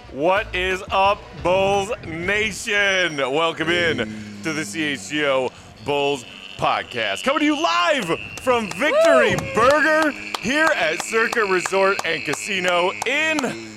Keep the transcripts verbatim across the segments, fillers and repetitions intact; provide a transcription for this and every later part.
What is up, Bulls Nation? Welcome in to the C H G O Bulls Podcast. Coming to you live from Victory Woo! Burger here at Circa Resort and Casino in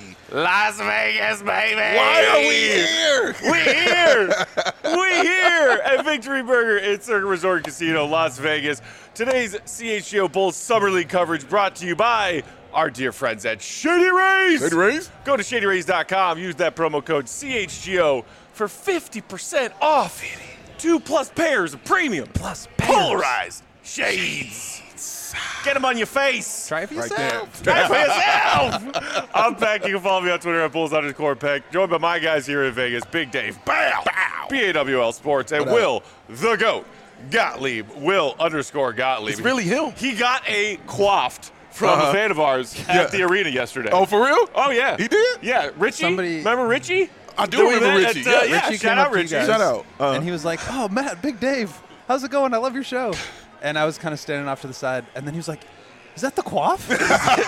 Las Vegas, baby. Why are we here? We here. We here at Victory Burger at Circa Resort and Casino, Las Vegas. Today's C H G O Bulls Summer League coverage brought to you by our dear friends at Shady Rays. Shady Rays? Go to shady rays dot com. Use that promo code C H G O for fifty percent off. Two plus pairs of premium plus pairs. Polarized shades. Get them on your face. Try it for yourself. Try it for yourself. I'm Peck. You can follow me on Twitter at Bulls underscore Peck. Joined by my guys here in Vegas, Big Dave, Bow, Bow, B A W L Sports, and Will, the GOAT, Gottlieb, Will underscore Gottlieb. It's really him. He got a quaffed from uh-huh. a fan of ours at yeah. the arena yesterday. Oh, for real? Oh, yeah. He did? Yeah. Richie? Somebody... Remember Richie? I do remember Richie. At, uh, yeah. yeah. Richie Shout out Richie. Shout out. Uh-huh. And he was like, oh, Matt, Big Dave, how's it going? I love your show. And I was kind of standing off to the side. And then he was like, is that the quaff? Is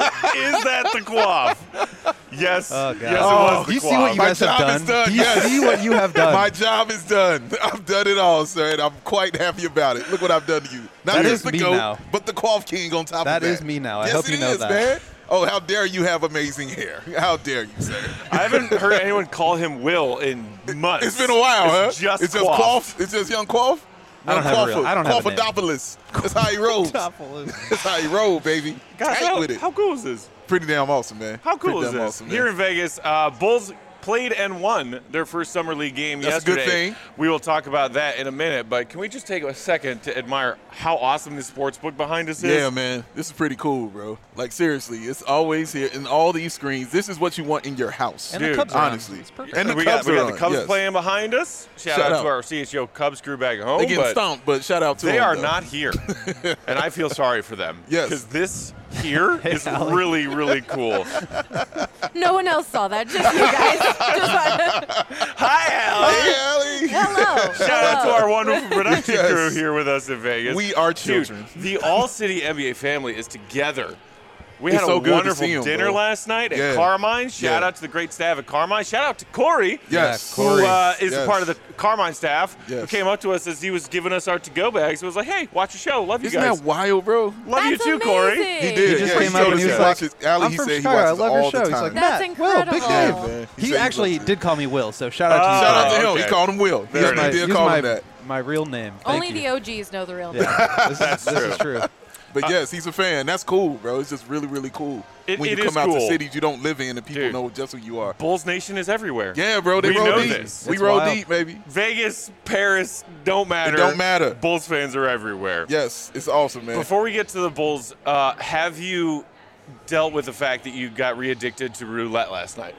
that the quaff? Yes. Oh, God. Yes, it oh, was the Do you quaff. see what you My guys have job done? is done. Do you Yes. see what you have done? My job is done. I've done it all, sir, and I'm quite happy about it. Look what I've done to you. Not That just is the me GOAT, now. but the Quaff King on top That of that. is me now. I yes, hope you it know is, that. Man. Oh, how dare you have amazing hair. How dare you, sir. I haven't heard anyone call him Will in months. It's been a while, it's huh? Just it's just quaff. Quaff. It's just young Quaff. I don't have a real- I don't have a name. Quaffadopolis. That's how he rolls. That's how he roll, baby. Guys, Tight how, with it. how cool is this? Pretty damn awesome, man. How cool Pretty is damn this? Awesome, Here in Vegas, uh, Bulls played and won their first summer league game That's yesterday. a good thing. We will talk about that in a minute, but can we just take a second to admire how awesome this sports book behind us is? Yeah, man. This is pretty cool, bro. Like, seriously, it's always here in all these screens. This is what you want in your house. And Dude, the Cubs are on. honestly. It's perfect. And the we Cubs got, we are got the on, Cubs yes. playing behind us. Shout, Shout out, out. to our C H G O Cubs crew back at home. They getting but stomped, but shout out to They them. are though. not here, and I feel sorry for them. Yes. Because this here Hey, is Allie. really, really cool. No one else saw that, just you guys. Just Hi, Allie. Hey, Allie. Hello. Shout out to our wonderful production Yes. crew here with us in Vegas. We are Dude, children. the All-City N B A family is together. We It's had so a good to wonderful see 'em, dinner bro. last night at Yeah. Carmine. Shout Yeah. out to the great staff at Carmine. Shout out to Corey, Yes. Yeah, Corey. who uh, is a Yes. part of the Carmine staff, who Yes. came up to us as he was giving us our to-go bags. He was like, hey, watch your show. Love you Isn't guys. that wild, bro? Love you That's too, Corey. amazing. He did. He just yeah, came he up told and us he was he like, watches. Allie, I'm he from said he Chicago. I watches love all your show. the He's time. like, That's Matt, Will, Big incredible. Dave. Yeah, man. He said actually loves it. did call me Will, so shout out to Uh, you. Shout out to him. okay. He called him Will. Very Yes, nice. he did Use call my, him that. my real name. Thank Only you. the O Gs know the real name. Yeah, this, That's is, this true. is true. But yes, he's a fan. That's cool, bro. It's just really, really cool. It- when it you is come out to cool. cities you don't live in and people Dude. know just who you are. Bulls Nation is everywhere. Yeah, bro. They We roll know deep. this. We It's roll wild. deep, baby. Vegas, Paris, don't matter. It don't matter. Bulls fans are everywhere. Yes, it's awesome, man. Before we get to the Bulls, uh, have you dealt with the fact that you got re-addicted to roulette last night?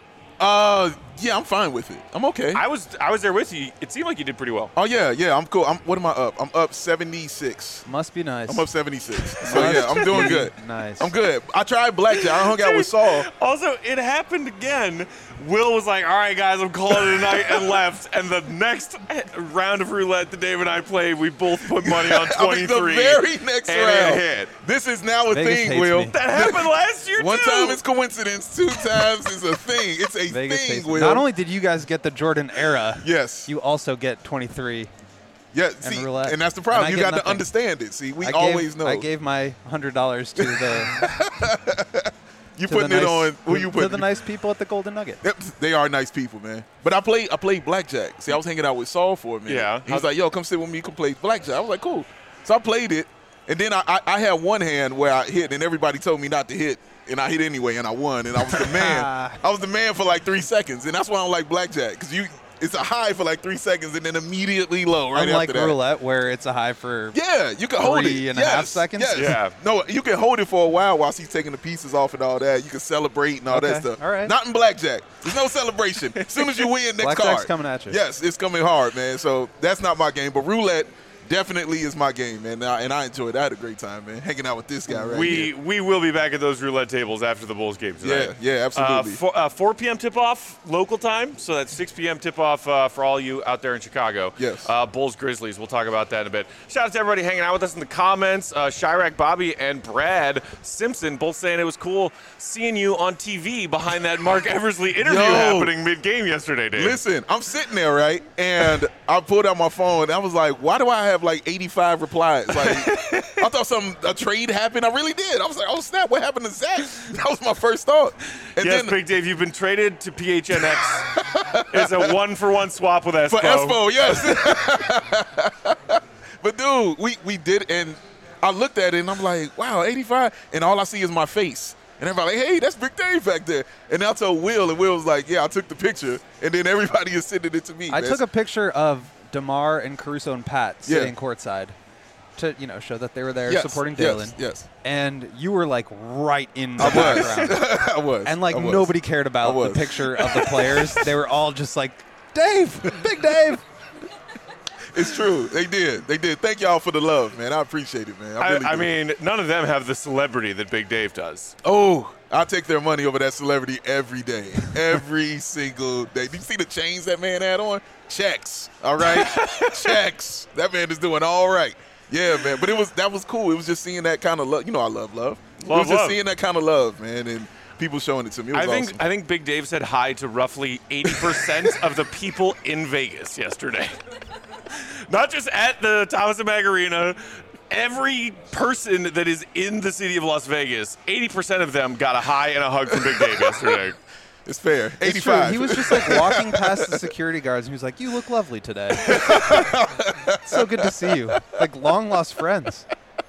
Uh, yeah, I'm fine with it. I'm okay. I was I was there with you. It seemed like you did pretty well. oh yeah, yeah. I'm cool. I'm. What am I up? I'm up seventy-six. Must be nice. I'm up seventy-six. So yeah, I'm doing good. Nice. I'm good. I tried blackjack. I hung out with Saul. Also, it happened again. Will was like, all right, guys, I'm calling it a night, and left. And the next round of roulette that Dave and I played, we both put money on I mean, the twenty-three. very next and round. it hit. This is now a Vegas thing, hates Will. me. That happened last year, One too. time it's coincidence. Two times is a thing. It's a Vegas thing, hates me. Will. Not only did you guys get the Jordan era, Yes. you also get twenty-three. Yeah, see, roulette. and that's the problem. And I You get got to nothing. understand it. See, we I always gave, know. I gave my one hundred dollars to the you to putting the it nice, on. Who you to putting? the nice people at the Golden Nugget. Yep, they are nice people, man. But I played. I played blackjack. See, I was hanging out with Saul for a minute. Yeah. He was like, "Yo, come sit with me. Come play blackjack." I was like, "Cool." So I played it, and then I, I, I had one hand where I hit, and everybody told me not to hit, and I hit anyway, and I won, and I was the man. I was the man for like three seconds, and that's why I don't like blackjack, because you, it's a high for like three seconds, and then immediately low right Unlike after that. roulette, where it's a high for Yeah, you can hold it. Three and a yes, half seconds? Yes. Yeah. No, you can hold it for a while while she's taking the pieces off and all that. You can celebrate and all Okay, that stuff. all right. Not in blackjack. There's no celebration. As soon as you win, next Blackjack's card. coming at you. Yes, it's coming hard, man. So that's not my game. But roulette, definitely is my game, man. And I, and I enjoyed it. I had a great time, man, hanging out with this guy right we, here. We will be back at those roulette tables after the Bulls game tonight. Yeah, yeah, absolutely. Uh, four, uh, four p.m. tip-off local time, so that's six p.m. tip-off uh, for all you out there in Chicago. Yes. Uh, Bulls Grizzlies. We'll talk about that in a bit. Shout out to everybody hanging out with us in the comments. Uh, Chirac Bobby and Brad Simpson both saying it was cool seeing you on T V behind that Mark Eversley interview Yo. happening mid-game yesterday, Dave. Listen, I'm sitting there, right, and I pulled out my phone, and I was like, why do I have like eighty-five replies? Like, I thought some a trade happened. I really did. I was like, oh, snap, what happened to Zach? That was my first thought. And yes, then, Big Dave, you've been traded to P H N X. It's a one-for-one swap with Espo. For Espo, yes. But, dude, we, we did, and I looked at it, and I'm like, wow, eighty-five, and all I see is my face. And everybody like, hey, that's Big Dave back there. And I told Will, and Will was like, yeah, I took the picture. And then everybody is sending it to me. I man. took a picture of DeMar and Caruso and Pat Yeah. sitting courtside to, you know, show that they were there yes, supporting yes, Dalen. Yes, And you were, like, right in the I was. background. I was. And, like, I was. nobody cared I about the was. picture of the players. They were all just like, Dave, Big Dave. It's true. They did. They did. Thank y'all for the love, man. I appreciate it, man. I, I, really I do. mean, none of them have the celebrity that Big Dave does. oh, I take their money over that celebrity every day, every single day. Do you see the chains that man had on? Checks. All right, checks. That man is doing all right. Yeah, man. But it was that was cool. It was just seeing that kind of love. You know, I love love. it Love, was just love. seeing that kind of love, man, and people showing it to me. It was I think awesome. I think Big Dave said hi to roughly eighty percent of the people in Vegas yesterday. Not just at the Thomas and Mack Arena. Every person that is in the city of Las Vegas, eighty percent of them got a hi and a hug from Big Dave yesterday. It's fair. It's true. eighty-five. He was just like walking past the security guards and he was like, you look lovely today. So good to see you. Like long lost friends.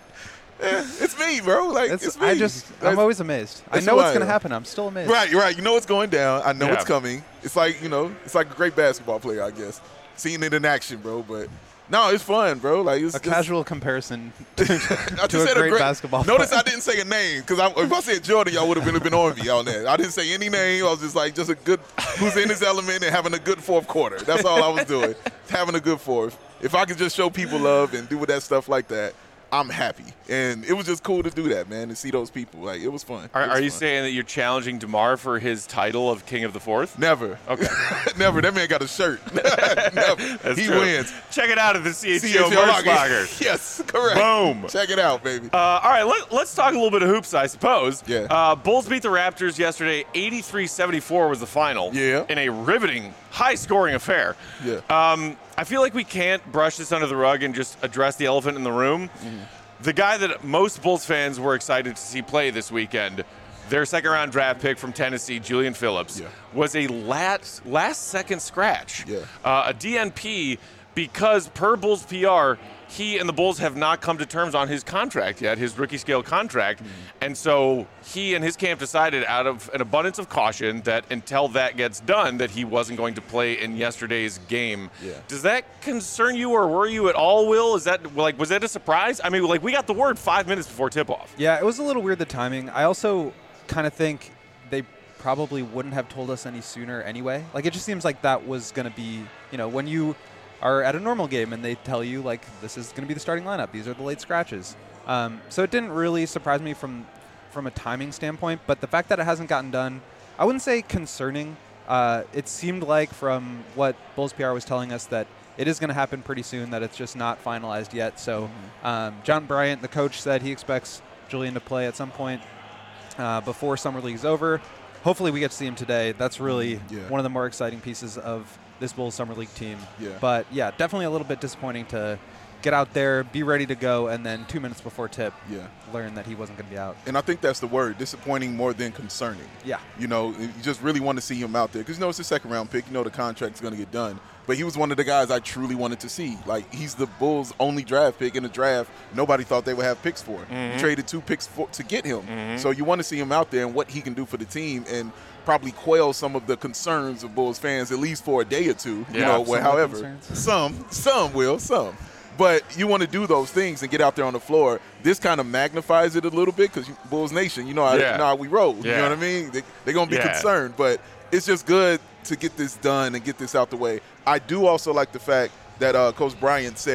It's me, bro. Like It's, it's me. I just, That's- I'm always amazed. I that's know who what's I going to am. happen. I'm still amazed. Right, right. You know what's going down. I know Yeah. it's coming. It's like, you know, it's like a great basketball player, I guess. Seeing it in action, bro. But no, it's fun, bro. Like it's A it's- casual comparison to, I just to a said great basketball Notice player. I didn't say a name because if I said Jordan, y'all would have been, been on me on that. I didn't say any name. I was just like, just a good, who's in his element and having a good fourth quarter. That's all I was doing. Having a good fourth. If I could just show people love and do with that stuff like that, I'm happy. And it was just cool to do that, man, to see those people. Like, it was fun. Are, It was are you fun. saying that you're challenging DeMar for his title of King of the Fourth? Never. Okay. Never. That man got a shirt. Never. That's he true. wins. Check it out at the C H C G O H L merch Locker. locker. Yes, correct. Boom. Check it out, baby. Uh, all right, let, let's talk a little bit of hoops, I suppose. Yeah. Uh, Bulls beat the Raptors yesterday. eighty-three seventy-four was the final. Yeah. In a riveting, high-scoring affair. Yeah. Um, I feel like we can't brush this under the rug and just address the elephant in the room. Mm-hmm. The guy that most Bulls fans were excited to see play this weekend, their second-round draft pick from Tennessee, Julian Phillips, Yeah. was a last, last-second scratch. Yeah. Uh, a D N P because per Bulls P R, he and the Bulls have not come to terms on his contract yet, his rookie scale contract. Mm-hmm. And so he and his camp decided out of an abundance of caution that until that gets done, that he wasn't going to play in yesterday's game. Yeah. Does that concern you or worry you at all, Will? Is that like, was that a surprise? I mean, like we got the word five minutes before tip-off. Yeah, it was a little weird, the timing. I also kind of think they probably wouldn't have told us any sooner anyway. Like, it just seems like that was going to be, you know, when you are at a normal game and they tell you, like, this is going to be the starting lineup. These are the late scratches. Um, so it didn't really surprise me from from a timing standpoint. But the fact that it hasn't gotten done, I wouldn't say concerning. Uh, it seemed like from what Bulls P R was telling us that it is going to happen pretty soon, that it's just not finalized yet. So um, John Bryant, the coach, said he expects Julian to play at some point uh, before Summer League is over. Hopefully we get to see him today. That's really Yeah. one of the more exciting pieces of this Bulls Summer League team. Yeah. But, yeah, definitely a little bit disappointing to get out there, be ready to go, and then two minutes before tip, Yeah. learn that he wasn't going to be out. And I think that's the word, disappointing more than concerning. Yeah. You know, you just really want to see him out there because, you know, it's a second round pick. You know the contract's going to get done. But he was one of the guys I truly wanted to see. Like, he's the Bulls' only draft pick in the draft nobody thought they would have picks for. Mm-hmm. You traded two picks for, to get him. So you want to see him out there and what he can do for the team and probably quell some of the concerns of Bulls fans, at least for a day or two. Yeah, you know, some of the however. concerns. Some, some will, some. But you want to do those things and get out there on the floor. This kind of magnifies it a little bit because Bulls Nation, you know how, Yeah. you know how we roll. You Yeah. know what I mean? They, they're going to be Yeah. concerned. But it's just good to get this done and get this out the way. I do also like the fact that uh, Coach Bryant said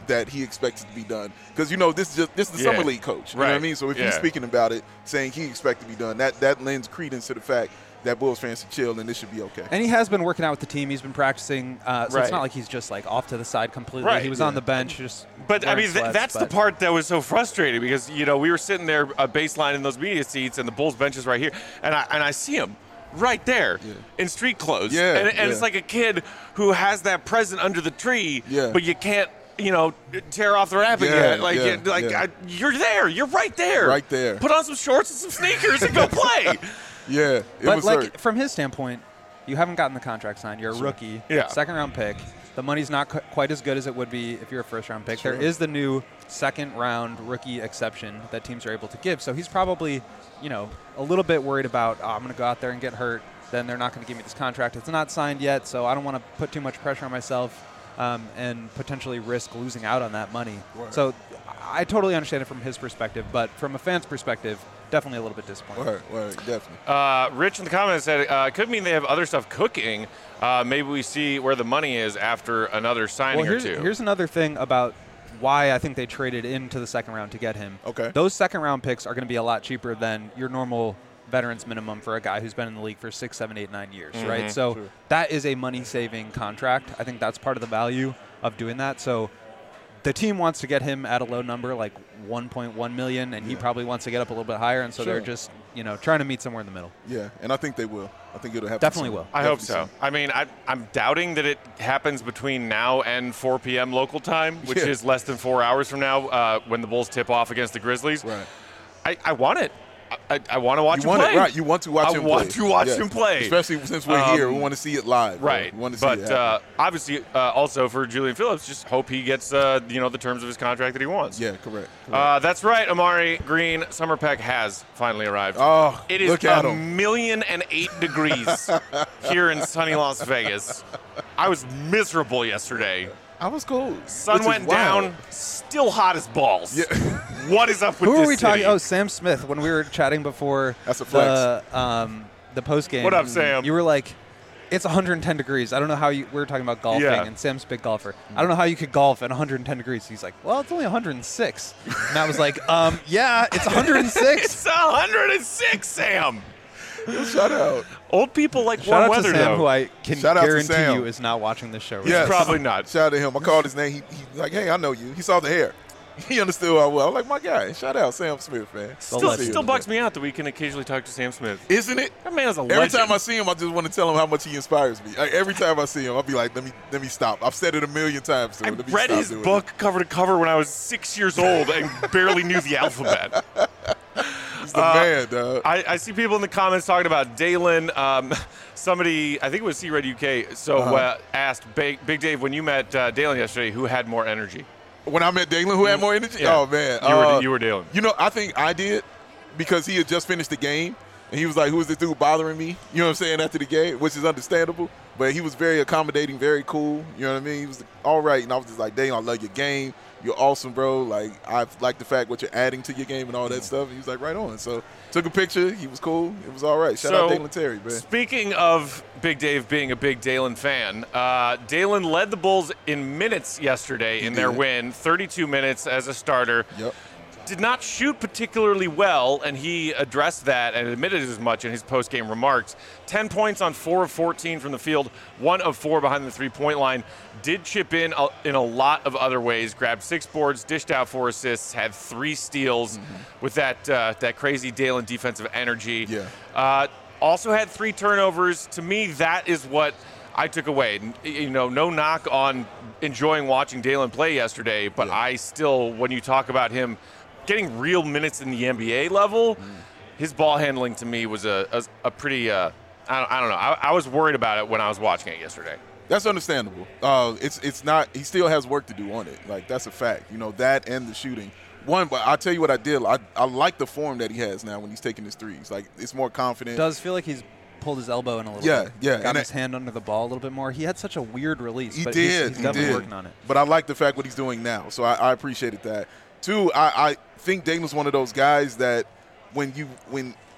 that he expects it to be done. Because, you know, this is just this is the Yeah. summer league coach. You know Right. what I mean? So if Yeah. he's speaking about it, saying he expects to be done, that, that lends credence to the fact that Bulls fans should chill and this should be okay. And he has been working out with the team. He's been practicing, uh, so Right. it's not like he's just like off to the side completely. Right. He was Yeah. on the bench, just. But I wearing mean, th- sweats, that's the but- part that was so frustrating because you know we were sitting there uh, baseline in those media seats, and the Bulls bench is right here, and I and I see him right there Yeah. in street clothes, Yeah, and, and it's yeah. like a kid who has that present under the tree, Yeah. but you can't. You know, tear off the wrapping Yeah, yet. Like, yeah, you, like yeah. I, you're there. You're right there. Right there. Put on some shorts and some sneakers and go play. Yeah, it But was like hurt. from his standpoint, you haven't gotten the contract signed. You're a rookie, Yeah. second round pick. The money's not qu- quite as good as it would be if you're a first round pick. Sure. There is the new second round rookie exception that teams are able to give. So he's probably, you know, a little bit worried about, oh, I'm going to go out there and get hurt. Then they're not going to give me this contract. It's not signed yet, so I don't want to put too much pressure on myself um, and potentially risk losing out on that money. Right. So I totally understand it from his perspective, but from a fan's perspective, definitely a little bit disappointed. Right, right, definitely. Uh, Rich in the comments said, uh, could mean they have other stuff cooking. Uh, maybe we see where the money is after another signing Well, here's, or two. here's another thing about why I think they traded into the second round to get him. Okay. Those second round picks are going to be a lot cheaper than your normal veterans minimum for a guy who's been in the league for six, seven, eight, nine years, Mm-hmm. right? So Sure. that is a money-saving contract. I think that's part of the value of doing that. So the team wants to get him at a low number, like one point one million, and he Yeah. probably wants to get up a little bit higher, and so they're Sure. just, you know, trying to meet somewhere in the middle. Yeah, and I think they will. I think it'll happen. Definitely soon. will. I hope Definitely so. I mean, I, I'm doubting that it happens between now and four p.m. local time, which Yeah. is less than four hours from now uh, when the Bulls tip off against the Grizzlies. soon. Right. I, I want it. I, I, I want to watch You him want play. it, right? You want to watch I him want play. to watch Yeah. him play. Especially since we're Um, here, we want to see it live. bro. Right. We want to see But it uh, happen. obviously, uh, also for Julian Phillips, just hope he gets uh, you know the terms of his contract that he wants. Yeah, correct. correct. Uh, that's right, Amari Green. Summer Peck has finally arrived. Oh, it is look at a him. million and eight degrees here in sunny Las Vegas. I was miserable yesterday. I was cool. Sun Which is went wild. down, still hot as balls. Yeah. What is up with Who this are we talking? city? Oh, Sam Smith. When we were chatting before That's a the um, the post game. What up, Sam? You were like, it's one hundred ten degrees. I don't know how you. We were talking about golfing, Yeah. and Sam's a big golfer. I don't know how you could golf at one hundred ten degrees. He's like, well, it's only one hundred six. And I was like, um, yeah, it's one hundred six. It's one hundred six, Sam. Shout out. Old people like Shout warm out weather, to Sam, though. who I can Shout out to guarantee Sam. you is not watching this show. Right Yes. now. Probably not. Shout out to him. I called his name. He, he like, hey, I know you. He saw the hair. He understood who I was. I was like, my guy. Shout out Sam Smith, man. Still, legend. still bugs me out that we can occasionally talk to Sam Smith. Isn't it? That man is a Every legend. time I see him, I just want to tell him how much he inspires me. Like, every time I see him, I'll be like, let me let me stop. I've said it a million times to I him. Let me read stop his doing book cover to cover when I was six years old and barely knew the alphabet. it. He's the uh, man, dog. I, I see people in the comments talking about Dalen. Um, somebody, I think it was C-Red U K, so Uh-huh. uh, asked Big, Big Dave, when you met uh, Dalen yesterday, who had more energy? When I met Dalen, who had more energy? Yeah. Oh, man. You were, Uh, you were Dalen. You know, I think I did because he had just finished the game. And he was like, who is this dude bothering me? You know what I'm saying, after the game, which is understandable. But he was very accommodating, very cool. You know what I mean? He was all right. And I was just like, dang, I love your game. You're awesome, bro. Like, I like the fact what you're adding to your game and all that stuff. And he was like, right on. So took a picture. He was cool. It was all right. Shout So, out Dalen Terry, man. Speaking of Big Dave being a big Dalen fan, uh, Dalen led the Bulls in minutes yesterday in their did. win, thirty-two minutes as a starter. Yep. Did not shoot particularly well, and he addressed that and admitted as much in his post-game remarks. ten points on four of fourteen from the field, one of four behind the three-point line. Did chip in a, in a lot of other ways, grabbed six boards, dished out four assists, had three steals Mm-hmm. with that uh, that crazy Dalen defensive energy. Yeah. Uh, also had three turnovers. To me, that is what I took away. N- You know, no knock on enjoying watching Dalen play yesterday, but Yeah. I still, when you talk about him getting real minutes in the N B A level, Mm. his ball handling to me was a, a, a pretty, uh, I, don't, I don't know. I, I was worried about it when I was watching it yesterday. That's understandable. Uh, it's it's not. He still has work to do on it. Like, that's a fact. You know, that and the shooting. One, but I'll tell you what I did. I, I like the form that he has now when he's taking his threes. Like, it's more confident. Does feel like he's pulled his elbow in a little Yeah, bit. yeah, Got and his I- hand under the ball a little bit more. He had such a weird release. He but did. He's, he's he definitely did. working on it. But I like the fact what he's doing now. So I, I appreciated that. Two, I, I think Dalen's one of those guys that when you when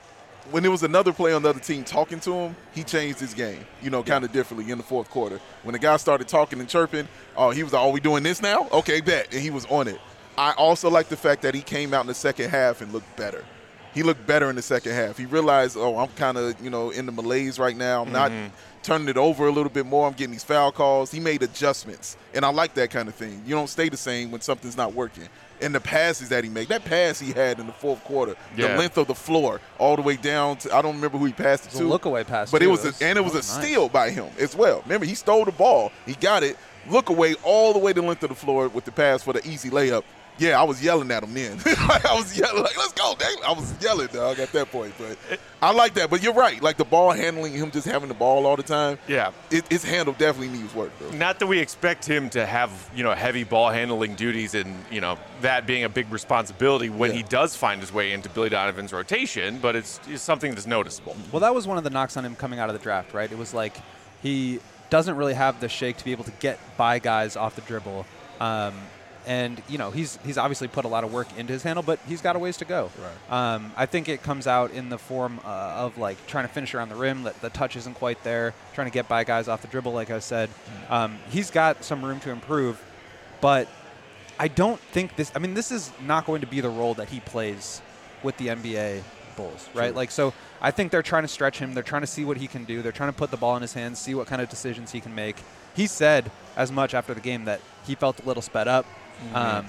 when there was another player on the other team talking to him, he changed his game, you know, kind of differently in the fourth quarter. When the guy started talking and chirping, oh, he was like, "Are we doing this now? Okay, bet." And he was on it. I also like the fact that he came out in the second half and looked better. He looked better in the second half. He realized, oh, I'm kind of, you know, in the malaise right now. I'm Mm-hmm. not turning it over a little bit more. I'm getting these foul calls. He made adjustments, and I like that kind of thing. You don't stay the same when something's not working. And the passes that he made, that pass he had in the fourth quarter, Yeah. the length of the floor all the way down to, I don't remember who he passed it It was to. a look-away pass, But too. it was, It was- a, and it was that a was nice. steal by him as well. Remember, he stole the ball. He got it, look away all the way the length of the floor with the pass for the easy layup. Yeah, I was yelling at him then. I was yelling, like, let's go, dang. I was yelling, dog, at that point. But I like that. But you're right. Like, the ball handling, him just having the ball all the time, Yeah. it, his handle definitely needs work, bro. Not that we expect him to have, you know, heavy ball handling duties and, you know, that being a big responsibility when Yeah. he does find his way into Billy Donovan's rotation, but it's, it's something that's noticeable. Well, that was one of the knocks on him coming out of the draft, right? It was like he doesn't really have the shake to be able to get by guys off the dribble. Um, and, you know, he's he's obviously put a lot of work into his handle, but he's got a ways to go. Right. Um, I think it comes out in the form uh, of, like, trying to finish around the rim. That the touch isn't quite there, trying to get by guys off the dribble, like I said. Um, he's got some room to improve, but I don't think this – I mean, this is not going to be the role that he plays with the N B A Bulls, right? True. Like, so I think they're trying to stretch him. They're trying to see what he can do. They're trying to put the ball in his hands, see what kind of decisions he can make. He said as much after the game that he felt a little sped up, Mm-hmm. um,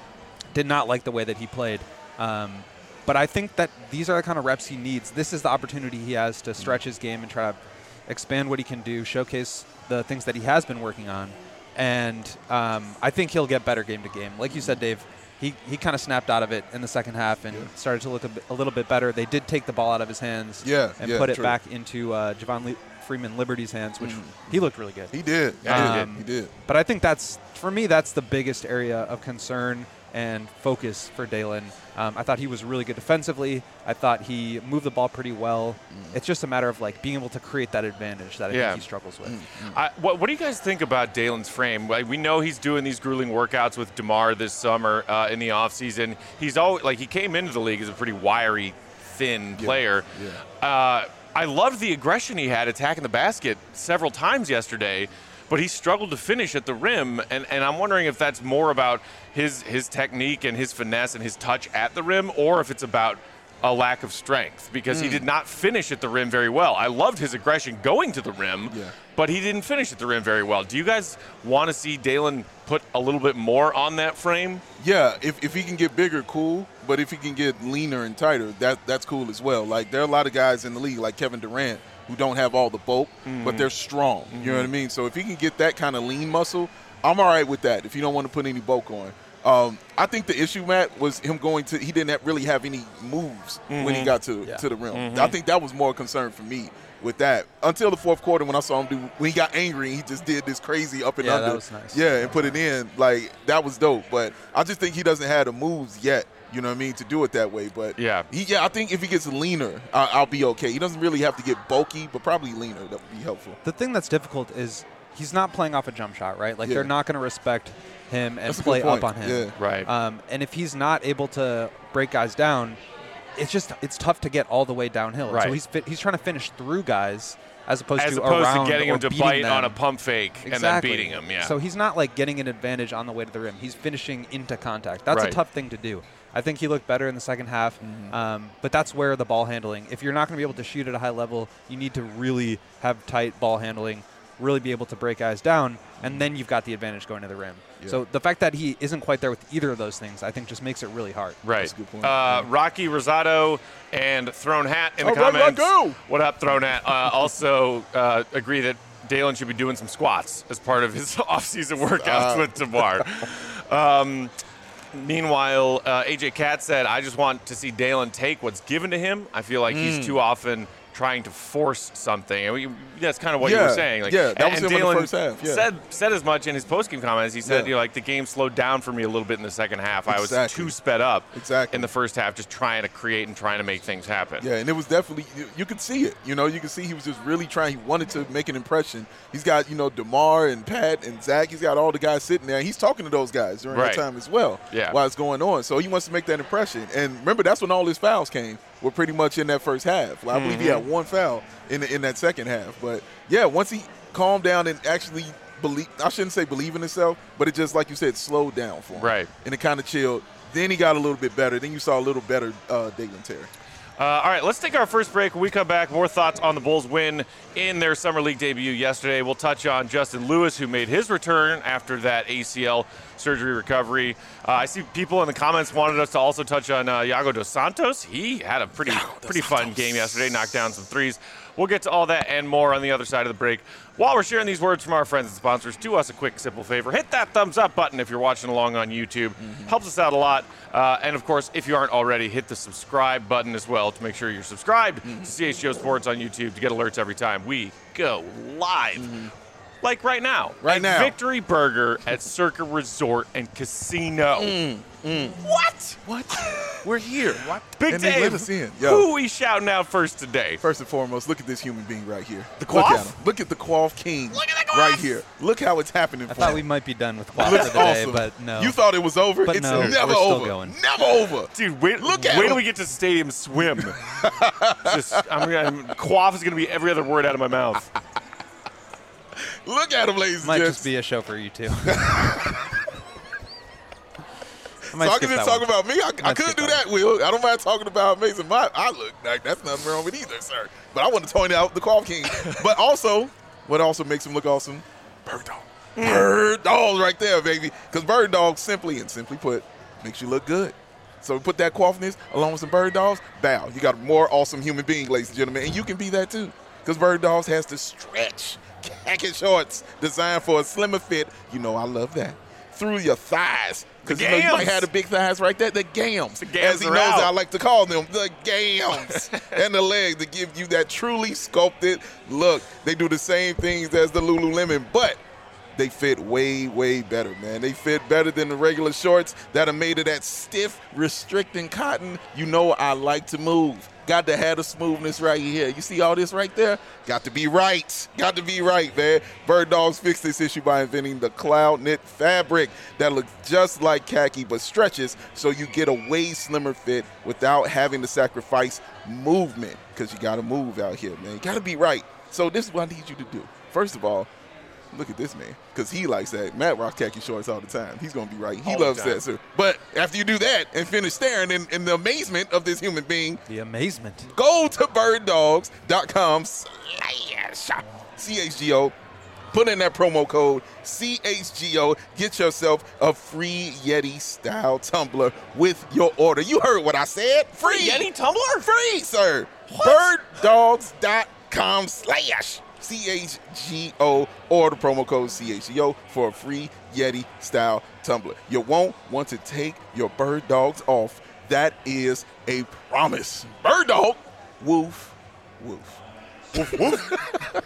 did not like the way that he played. Um, but I think that these are the kind of reps he needs. This is the opportunity he has to stretch his game and try to expand what he can do, showcase the things that he has been working on. And um, I think he'll get better game to game. Like you said, Dave, he, he kind of snapped out of it in the second half and started to look a, bit, a little bit better. They did take the ball out of his hands Yeah, and yeah, put it true. back into uh, Javon Le- Freeman Liberty's hands, which Mhm. he looked really good. He did. He Yeah, he did. Um, He did. But I think that's, for me, that's the biggest area of concern and focus for Dalen. Um, I thought he was really good defensively. I thought he moved the ball pretty well. It's just a matter of, like, being able to create that advantage that I Yeah. think he struggles with. I, what, what do you guys think about Dalen's frame? Like, we know he's doing these grueling workouts with DeMar this summer uh, in the offseason. He's always, like, he came into the league as a pretty wiry, thin player. yeah. Uh, I loved the aggression he had attacking the basket several times yesterday, but he struggled to finish at the rim, and, and I'm wondering if that's more about his his technique and his finesse and his touch at the rim, or if it's about a lack of strength, because he did not finish at the rim very well. I loved his aggression going to the rim, Yeah. but he didn't finish at the rim very well. Do you guys want to see Dalen put a little bit more on that frame? Yeah, if, if he can get bigger, cool. But if he can get leaner and tighter, that that's cool as well. Like, there are a lot of guys in the league, like Kevin Durant, who don't have all the bulk, but they're strong. You know what I mean? So if he can get that kind of lean muscle, I'm all right with that if you don't want to put any bulk on. Um, I think the issue, Matt, was him going to – he didn't have, really have any moves when he got to, Yeah. to the rim. I think that was more a concern for me with that. Until the fourth quarter when I saw him do – when he got angry, he just did this crazy up and Yeah, under. that was nice. Yeah, and put it in. Like, that was dope. But I just think he doesn't have the moves yet, you know what I mean, to do it that way. But Yeah. he, yeah, I think if he gets leaner, I, I'll be okay. He doesn't really have to get bulky, but probably leaner. That would be helpful. The thing that's difficult is he's not playing off a jump shot, right? Like, Yeah. they're not going to respect him and That's a good play up point. on him. Yeah. Right. Um, and if he's not able to break guys down, it's just it's tough to get all the way downhill. Right. So he's fi- he's trying to finish through guys as opposed As to opposed around to getting or him to beating bite them. on a pump fake and then Exactly. beating him. Yeah. So he's not like getting an advantage on the way to the rim. He's finishing into contact. That's Right. a tough thing to do. I think he looked better in the second half, um, but that's where the ball handling. If you're not going to be able to shoot at a high level, you need to really have tight ball handling, really be able to break guys down, and then you've got the advantage going to the rim. Yeah. So the fact that he isn't quite there with either of those things, I think, just makes it really hard. Right. That's a good point. Uh, Rocky Rosado and Throne Hat in the All right, comments. Rocco! What up, Throne Hat? Uh, also uh, agree that Dalen should be doing some squats as part of his offseason workouts Uh. with DeMar. Um, meanwhile, uh, A J Cat said, I just want to see Dalen take what's given to him. I feel like Mm. he's too often trying to force something. And we, that's kind of what you Yeah, were saying. Like, yeah, that was and him in the Dalen first half, yeah. said, said as much in his postgame comments. He said, Yeah. you know, like, the game slowed down for me a little bit in the second half. I was Exactly. too sped up Exactly. in the first half, just trying to create and trying to make things happen. Yeah, and it was definitely you, you could see it. You know, you could see he was just really trying. He wanted to make an impression. He's got you know DeMar and Pat and Zach. He's got all the guys sitting there. He's talking to those guys during Right. that time as well. Yeah. while it's going on. So he wants to make that impression. And remember, that's when all his fouls came were pretty much in that first half. I believe he had one foul in the, in that second half. But, yeah, once he calmed down and actually believe – I shouldn't say believe in himself, but it just, like you said, slowed down for him. Right. And it kind of chilled. Then he got a little bit better. Then you saw a little better uh, Dalen Terry. Uh, all right, let's take our first break. When we come back, more thoughts on the Bulls' win in their Summer League debut yesterday. We'll touch on Justin Lewis, who made his return after that A C L surgery recovery. Uh, I see people in the comments wanted us to also touch on uh, Iago Dos Santos. He had a pretty pretty fun game yesterday, knocked down some threes. We'll get to all that and more on the other side of the break. While we're sharing these words from our friends and sponsors, do us a quick, simple favor. Hit that thumbs up button if you're watching along on YouTube. Mm-hmm. Helps us out a lot. Uh, and, of course, if you aren't already, hit the subscribe button as well to make sure you're subscribed mm-hmm. to C H G O Sports on YouTube to get alerts every time we go live. Mm-hmm. Like right now. Right now. Victory Burger at Circa Resort and Casino. Mm, mm. What? What? We're here. What? Big and they let Dave, us in. Yo. Who are we shouting out first today? First and foremost, look at this human being right here. The Look Quaff? at him. Look at the Quaff King Look at the Quaff! right here. Look how it's happening I for thought him. we might be done with Quaff Looks for today, awesome. but no. You thought it was over? But it's no, never we're still over. going. Never over. Dude, wait, Look at wait him. till we get to Stadium Swim. Just, I'm gonna, quaff is going to be every other word out of my mouth. Look at him, ladies Might and just gents. be a show for you two. So I can just talk one. about me. I, I Let's could skip do that that, Will. I don't mind talking about Mason. My, I look like that's nothing wrong with either, sir. But I want to point out the Quaff King. But also, what also makes him look awesome? Bird Dog. Bird Dog right there, baby. Because Bird Dog, simply and simply put, makes you look good. So put that quaffiness along with some Bird Dogs, bow. You got a more awesome human being, ladies and gentlemen. And you can be that too. Because Bird Dogs has the stretch khaki shorts designed for a slimmer fit. You know I love that. Through your thighs. Because you know you might have the big thighs right there. The gams. The gams as he are knows out. I like to call them. The gams. And the legs to give you that truly sculpted look. They do the same things as the Lululemon, but they fit way, way better, man. They fit better than the regular shorts that are made of that stiff, restricting cotton. You know I like to move. Got to have the smoothness right here. You see all this right there? Got to be right. Got to be right, man. Bird Dogs fixed this issue by inventing the cloud knit fabric that looks just like khaki but stretches so you get a way slimmer fit without having to sacrifice movement because you got to move out here, man. You got to be right. So this is what I need you to do. First of all, look at this man, because he likes that. Matt rocks khaki shorts all the time. He's going to be right. He All the loves time. that, sir. But after you do that and finish staring in, in the amazement of this human being, The amazement. go to bird dogs dot com slash C H G O. Put in that promo code C H G O. Get yourself a free Yeti-style tumbler with your order. You heard what I said. Free. Yeti tumbler? Free, sir. bird dogs dot com slash C H G O or the promo code C H G O for a free Yeti style tumbler. You won't want to take your bird dogs off. That is a promise. Bird dog, woof, woof. Woof, woof.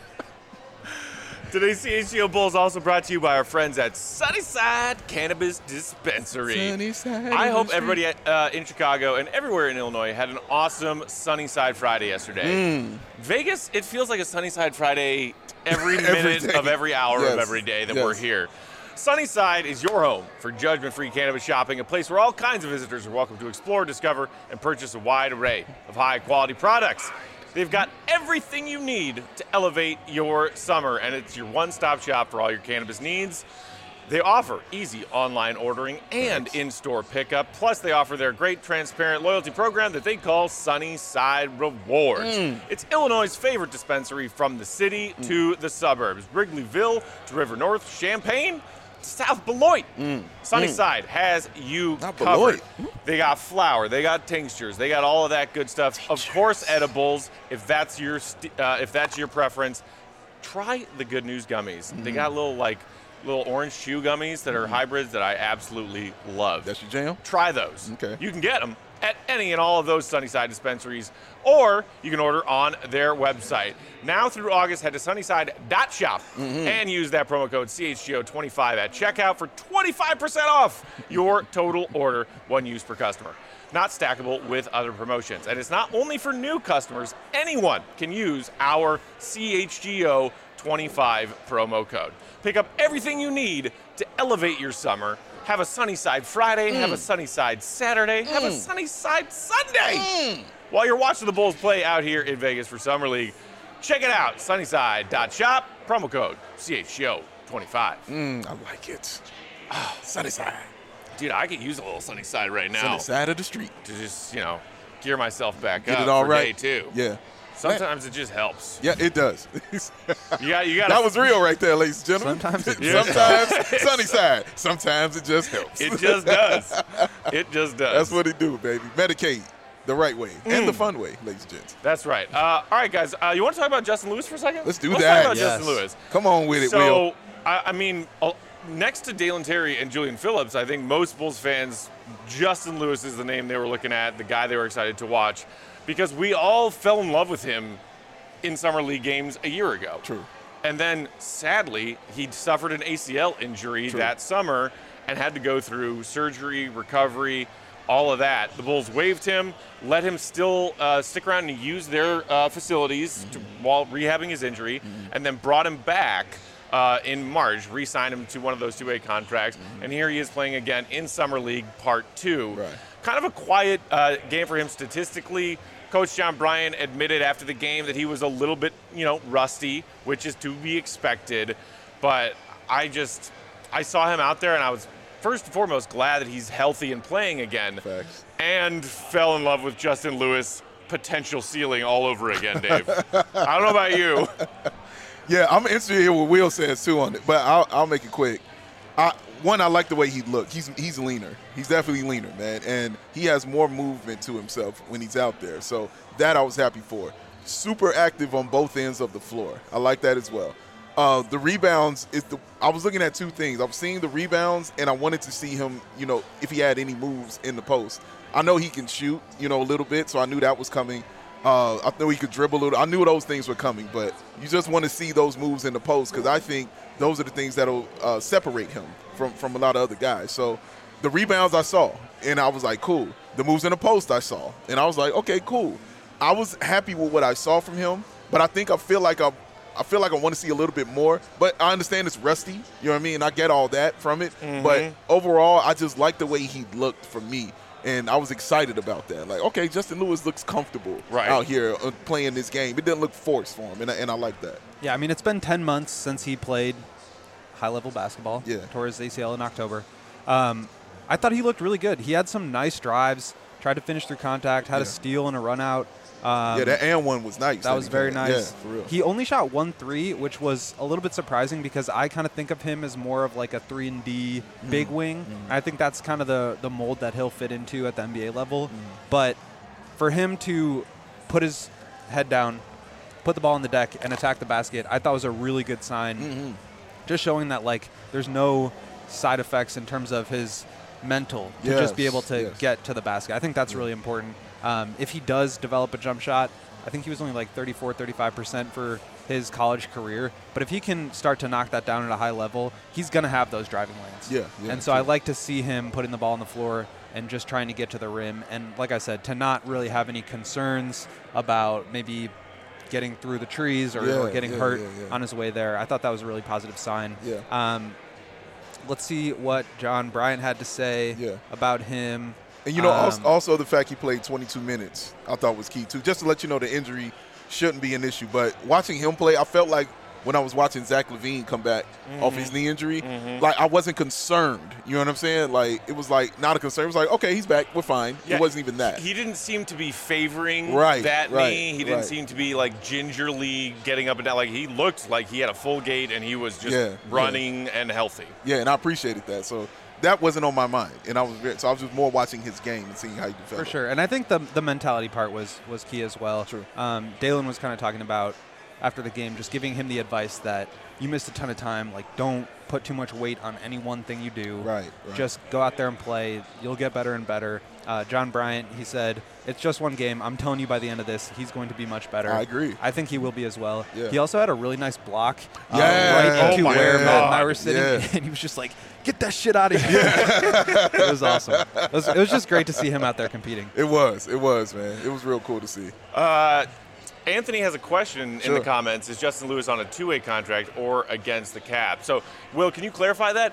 Today's C H G O Bulls also brought to you by our friends at Sunnyside Cannabis Dispensary. Sunnyside I hope Industry. everybody uh, in Chicago and everywhere in Illinois had an awesome Sunnyside Friday yesterday. Mm. Vegas, it feels like a Sunnyside Friday every Every minute day. of every hour of Yes. every day that Yes. we're here. Sunnyside is your home for judgment-free cannabis shopping, a place where all kinds of visitors are welcome to explore, discover, and purchase a wide array of high-quality products. They've got everything you need to elevate your summer, and it's your one-stop shop for all your cannabis needs. They offer easy online ordering and in-store pickup. Plus, they offer their great transparent loyalty program that they call Sunnyside Rewards. Mm. It's Illinois' favorite dispensary from the city Mm. to the suburbs. Wrigleyville to River North, Champaign to South Beloit. Mm. Sunnyside has you Not covered. Beloit. They got flour, they got tinctures, they got all of that good stuff. Of course, edibles. If that's your st- uh, if that's your preference, try the Good News gummies. They got little like little orange chew gummies that are hybrids that I absolutely love. That's your jam? Try those. Okay. You can get them at any and all of those Sunnyside dispensaries, or you can order on their website. Now through August, head to sunnyside dot shop and use that promo code C H G O twenty-five at checkout for twenty-five percent off your total order, one use per customer. Not stackable with other promotions. And it's not only for new customers. Anyone can use our C H G O twenty-five promo code. Pick up everything you need to elevate your summer. Have a Sunnyside Friday, have a Sunnyside Saturday, have a Sunnyside Sunday. while you're watching the Bulls play out here in Vegas for Summer League, check it out, sunnyside dot shop, promo code C H G O twenty-five. Mm, I like it. Ah, Sunnyside. Dude, I could use a little Sunnyside right now Sunny side of the street. to just, you know, gear myself back Get up it all for right. day two. Yeah. Sometimes it just helps. Yeah, it does. You got, you got. That was real right there, ladies and gentlemen. Sometimes it Yeah. Sometimes sunny side. Sometimes it just helps. It just does. It just does. That's what it do, baby. Medicaid the right way and the Mm. fun way, ladies and gents. That's right. Uh, all right, guys. Uh, you want to talk about Justin Lewis for a second? Let's do Let's that. talk about Yes. Justin Lewis. Come on with it, So, Will. I, I mean, uh, next to Dalen Terry and Julian Phillips, I think most Bulls fans, Justin Lewis is the name they were looking at, the guy they were excited to watch, because we all fell in love with him in Summer League games a year ago. True. And then, sadly, he suffered an A C L injury True. that summer and had to go through surgery, recovery, all of that. The Bulls waived him, let him still uh, stick around and use their uh, facilities Mm-hmm. to, while rehabbing his injury, and then brought him back uh, in March, re-signed him to one of those two-way contracts, and here he is playing again in Summer League Part two. Mm-hmm. Right. Kind of a quiet uh, game for him statistically. Coach John Bryant admitted after the game that he was a little bit, you know, rusty, which is to be expected. But I just, I saw him out there, and I was first and foremost glad that he's healthy and playing again. Facts. And fell in love with Justin Lewis' potential ceiling all over again, Dave. I don't know about you. Yeah, I'm interested to hear what Will says too on it, but I'll, I'll make it quick. I, one, I like the way he looked. He's he's leaner. He's definitely leaner, man, and he has more movement to himself when he's out there. So that I was happy for. Super active on both ends of the floor. I like that as well. Uh, the rebounds is the. I was looking at two things. I was seeing the rebounds, and I wanted to see him. You know, if he had any moves in the post. I know he can shoot. You know, a little bit, so I knew that was coming. Uh, I knew he could dribble a little. I knew those things were coming, but you just want to see those moves in the post because I think those are the things that'll uh, separate him from, from a lot of other guys. So the rebounds I saw, and I was like, cool. The moves in the post I saw, and I was like, okay, cool. I was happy with what I saw from him, but I think I feel like I, I feel like I want to see a little bit more. But I understand it's rusty. You know what I mean? I get all that from it, Mm-hmm. but overall, I just like the way he looked for me. And I was excited about that. Like, okay, Justin Lewis looks comfortable Right. out here uh, playing this game. It didn't look forced for him, and I, and I like that. Yeah, I mean, it's been ten months since he played high-level basketball. Yeah. Tore his A C L in October. Um, I thought he looked really good. He had some nice drives, tried to finish through contact, had Yeah. a steal and a run-out. Um, yeah, that and one was nice. That was he very played. nice. Yeah, for real. He only shot one three, which was a little bit surprising because I kind of think of him as more of like a three and D Mm-hmm. big wing. I think that's kind of the the mold that he'll fit into at the N B A level. Mm-hmm. But for him to put his head down, put the ball on the deck, and attack the basket, I thought was a really good sign. Mm-hmm. Just showing that like there's no side effects in terms of his mental to just be Yes, able to yes. get to the basket. I think that's really important. Um, if he does develop a jump shot, I think he was only like thirty-four, thirty-five percent for his college career. But if he can start to knock that down at a high level, he's going to have those driving lanes. Yeah, yeah, and so I true. like to see him putting the ball on the floor and just trying to get to the rim. And like I said, to not really have any concerns about maybe getting through the trees or, Yeah, or getting yeah, hurt yeah, yeah. on his way there. I thought that was a really positive sign. Yeah. Um, let's see what John Bryant had to say Yeah. about him. And, you know, also, Um, also the fact he played twenty-two minutes, I thought was key, too. Just to let you know the injury shouldn't be an issue. But watching him play, I felt like when I was watching Zach LaVine come back off his knee injury, like I wasn't concerned. You know what I'm saying? Like it was like not a concern. It was like, okay, he's back. We're fine. Yeah, it wasn't even that. He didn't seem to be favoring Right, that right, knee. He didn't right. seem to be like gingerly getting up and down. Like he looked like he had a full gait and he was just Yeah, running and healthy. yeah, and I appreciated that. So that wasn't on my mind. And I was very, so I was just more watching his game and seeing how he For developed. sure, and I think the the mentality part was was key as well. True. Um, Dalen was kind of talking about after the game, just giving him the advice that you missed a ton of time. Like, don't put too much weight on any one thing you do. Right, right. Just go out there and play. You'll get better and better. Uh, John Bryant, he said, it's just one game. I'm telling you, by the end of this, he's going to be much better. I agree. I think he will be as well. Yeah. He also had a really nice block uh, Yeah. right into Oh my where Matt and I God. were sitting, Yeah. and he was just like, get that shit out of here. It was awesome. It was, it was just great to see him out there competing. It was. It was, man. It was real cool to see. Uh, Anthony has a question in Sure. the comments. Is Justin Lewis on a two-way contract or against the cap? So, Will, can you clarify that?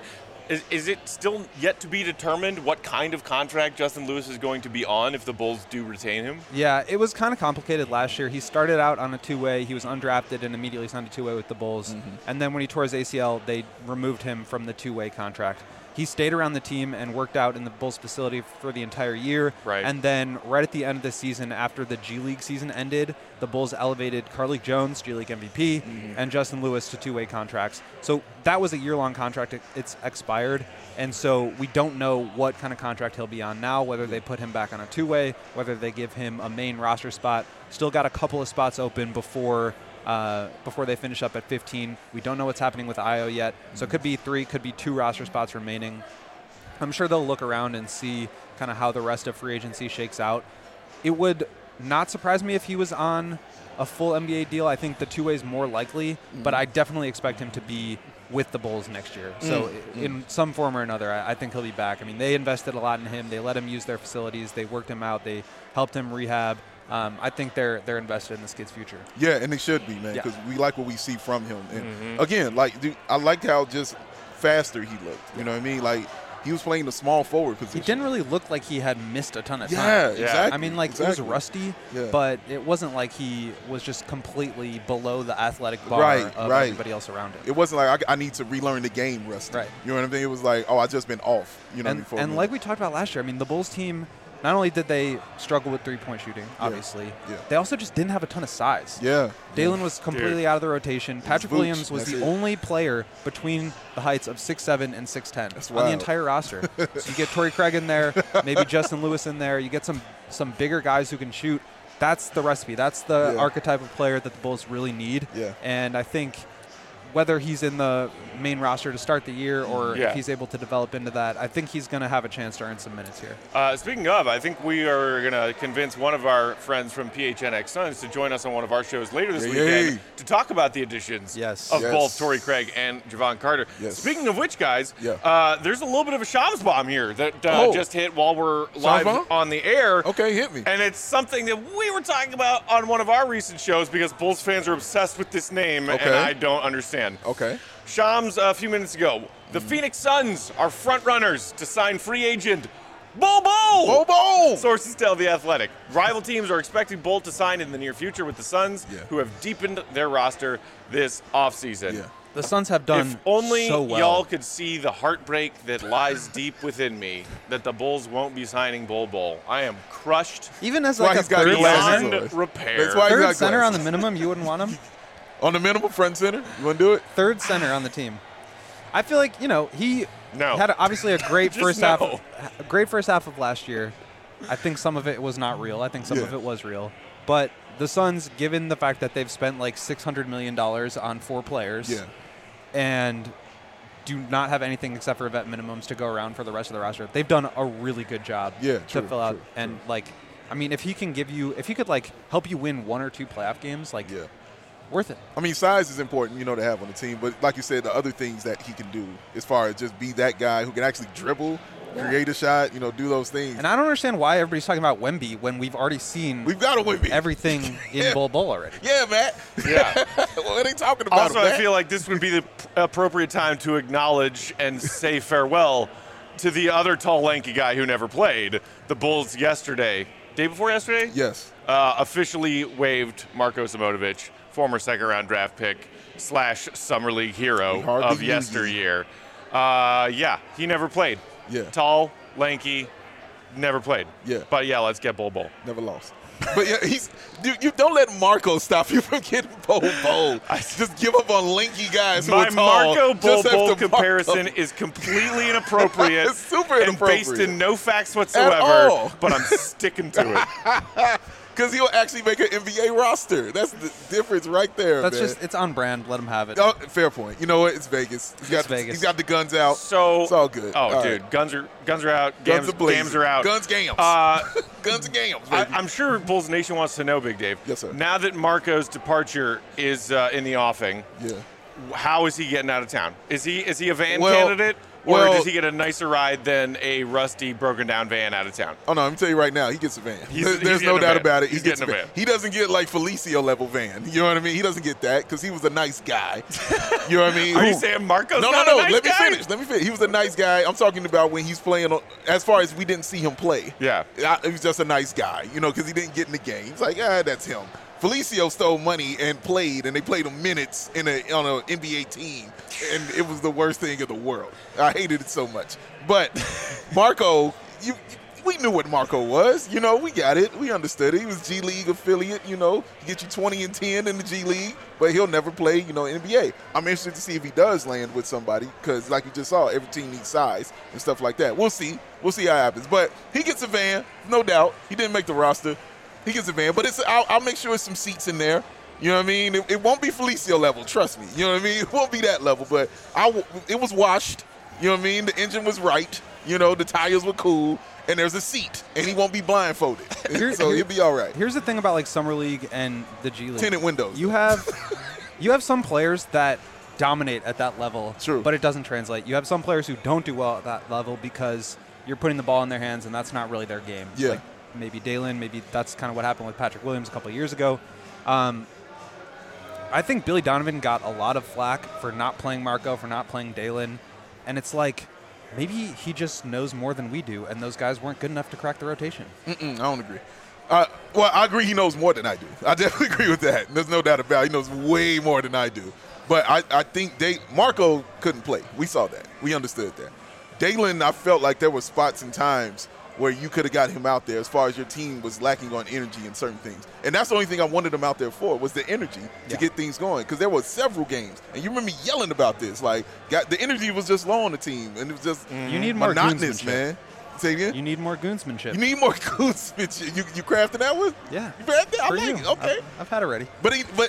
Is, is it still yet to be determined what kind of contract Justin Lewis is going to be on if the Bulls do retain him? Yeah, it was kind of complicated last year. He started out on a two-way. He was undrafted and immediately signed a two-way with the Bulls. Mm-hmm. And then when he tore his A C L, they removed him from the two-way contract. He stayed around the team and worked out in the Bulls facility for the entire year. Right. And then right at the end of the season, after the G League season ended, the Bulls elevated Carlik Jones, G League M V P, mm-hmm. and Justin Lewis to two-way contracts. So that was a year-long contract. It, it's expired. And so we don't know what kind of contract he'll be on now, whether they put him back on a two-way, whether they give him a main roster spot. Still got a couple of spots open before uh, before they finish up at fifteen. We don't know what's happening with I O yet. So it could be three, could be two roster spots remaining. I'm sure they'll look around and see kind of how the rest of free agency shakes out. It would not surprise me if he was on a full N B A deal. I think the two-way is more likely, mm-hmm. but I definitely expect him to be with the Bulls next year. So mm-hmm. in some form or another, I, I think he'll be back. I mean, they invested a lot in him. They let him use their facilities. They worked him out. They helped him rehab. Um, I think they're they're invested in this kid's future. Yeah, and they should be, man, because yeah. we like what we see from him. And mm-hmm. again, like dude, I liked how just faster he looked. You know what I mean? Like he was playing the small forward position. He didn't really look like he had missed a ton of time. Yeah, Yeah. exactly. I mean, like exactly. it was rusty, Yeah. but it wasn't like he was just completely below the athletic bar Right, of right. everybody else around him. It wasn't like I, I need to relearn the game rusty. Right. You know what I mean? It was like, oh, I just been off. You know and what I mean? for a and minute. like we talked about last year, I mean, the Bulls team, not only did they struggle with three-point shooting, obviously, yeah. they also just didn't have a ton of size. yeah, Dalen was completely Dude. out of the rotation. Patrick boots, Williams was that's the it. only player between the heights of six seven and six ten That's on the wild. entire roster. So you get Torrey Craig in there, maybe Justin Lewis in there. You get some some bigger guys who can shoot. That's the recipe. That's the Yeah. archetype of player that the Bulls really need. Yeah. And I think whether he's in the main roster to start the year or Yeah. if he's able to develop into that, I think he's going to have a chance to earn some minutes here. Uh, speaking of, I think we are going to convince one of our friends from P H N X Suns to join us on one of our shows later this Yay. weekend to talk about the additions Yes. of Yes. both Torrey Craig and Javon Carter. Yes. Speaking of which, guys, Yeah. uh, there's a little bit of a Shams bomb here that uh, Oh. just hit while we're live bomb? on the air. Okay, hit me. And it's something that we were talking about on one of our recent shows because Bulls fans are obsessed with this name, Okay. and I don't understand. Okay. Shams, a few minutes ago, the Phoenix Suns are front runners to sign free agent Bol Bol. Bol Bol. Sources tell The Athletic. Rival teams are expecting Bol to sign in the near future with the Suns, Yeah. who have deepened their roster this offseason. Yeah. The Suns have done If only so well. y'all could see the heartbreak that lies deep within me that the Bulls won't be signing Bol Bol. I am crushed Even as why like a he's got third glasses center, on. beyond repair. That's why- third got center on the glasses. minimum, you wouldn't want him? On the minimum, front center. You want to do it? Third center on the team. I feel like, you know, he No. had obviously a great Just first no. half a great first half of last year. I think some of it was not real. I think some Yeah. of it was real. But the Suns, given the fact that they've spent like six hundred million dollars on four players Yeah. and do not have anything except for vet minimums to go around for the rest of the roster, they've done a really good job Yeah, to true, fill out. true, and like, I mean, if he can give you, if he could like help you win one or two playoff games, like Yeah. worth it. I mean, size is important, you know, to have on the team. But like you said, the other things that he can do as far as just be that guy who can actually dribble, create a shot, you know, do those things. And I don't understand why everybody's talking about Wemby when we've already seen We've got to win. everything in Yeah. Bol Bol already. Yeah, Matt. Yeah. Well, it ain't talking about Also, him, I Matt. feel like this would be the p- appropriate time to acknowledge and say farewell to the other tall, lanky guy who never played. The Bulls yesterday, day before yesterday, Yes. uh, officially waived Marko Simonovic, former second-round draft pick slash summer league hero We hardly of knew you. yesteryear. Uh, yeah, he never played. Yeah. Tall, lanky, never played. Yeah. But yeah, let's get Bol Bol. Never lost. But yeah, he's dude, you don't let Marco stop you from getting Bol Bol. Just give up on lanky guys who My are tall. Marco Bol just Bol after comparison Marco. is completely inappropriate. It's super and based inappropriate. in no facts whatsoever. all. But I'm sticking to it. Because he'll actually make an N B A roster. That's the difference right there, That's man. just, it's on brand. Let him have it. Oh, fair point. You know what? It's Vegas. He's got, Vegas. He's got the guns out. So it's all good. Oh, All dude, right. guns are guns are out. Guns Gams, are blazing. gams are out. Guns gams. Uh, Guns and gams, I, baby. I'm sure Bulls Nation wants to know, Big Dave. Yes, sir. Now that Marco's departure is uh, in the offing, yeah. how is he getting out of town? Is he is he a van Well- candidate, or well- does he get a nicer ride than a rusty, broken down van out of town? Oh no, let me tell you right now, he gets a van. He's- There's, he's there's no getting a doubt van. about it. He's he gets getting a van. He doesn't get like Felicio level van. You know what I mean? He doesn't get that because he was a nice guy. You know what I mean? Are you Who- saying Marco's No, no, not no. a nice Let me guy? finish. Let me finish. He was a nice guy. I'm talking about when he's playing. On, as far as we didn't see him play. Yeah. I, he was just a nice guy. You know, because he didn't get in the game. He's like, ah, that's him. Felicio stole money and played, and they played him minutes in a on an N B A team, and it was the worst thing in the world. I hated it so much. But Marco, you, you we knew what Marco was. You know, we got it. We understood it. He was G League affiliate. You know, he get you twenty and ten in the G League, but he'll never play. You know, N B A. I'm interested to see if he does land with somebody because, like you just saw, every team needs size and stuff like that. We'll see. We'll see how it happens. But he gets a van, no doubt. He didn't make the roster. He gets a van, but it's I'll, I'll make sure it's some seats in there. You know what I mean? It, it won't be Felicio level, trust me. You know what I mean? It won't be that level, but I w- it was washed. You know what I mean? The engine was right. You know, the tires were cool, and there's a seat, and he won't be blindfolded. Here- so here- he'll be all right. Here's the thing about like summer league and the G League. Tinted windows. You have you have some players that dominate at that level, True. but it doesn't translate. You have some players who don't do well at that level because you're putting the ball in their hands, and that's not really their game. Yeah. Like maybe Dalen, maybe that's kind of what happened with Patrick Williams a couple of years ago. Um, I think Billy Donovan got a lot of flack for not playing Marco, for not playing Dalen, and it's like maybe he just knows more than we do, and those guys weren't good enough to crack the rotation. Mm-mm, I don't agree. Uh, well, I agree he knows more than I do. I definitely agree with that. There's no doubt about it. He knows way more than I do. But I, I think they Marco couldn't play. We saw that. We understood that. Dalen, I felt like there were spots and times where you could have got him out there as far as your team was lacking on energy in certain things. And that's the only thing I wanted him out there for was the energy to Yeah. get things going. Because there were several games. And you remember me yelling about this. Like, got, the energy was just low on the team. And it was just You need more monotonous, goonsmanship. man. Say again? You need more goonsmanship. You need more goonsmanship. You you crafted that one? yeah. You crafted? I For like you. it. Okay. I've, I've had it ready. But he but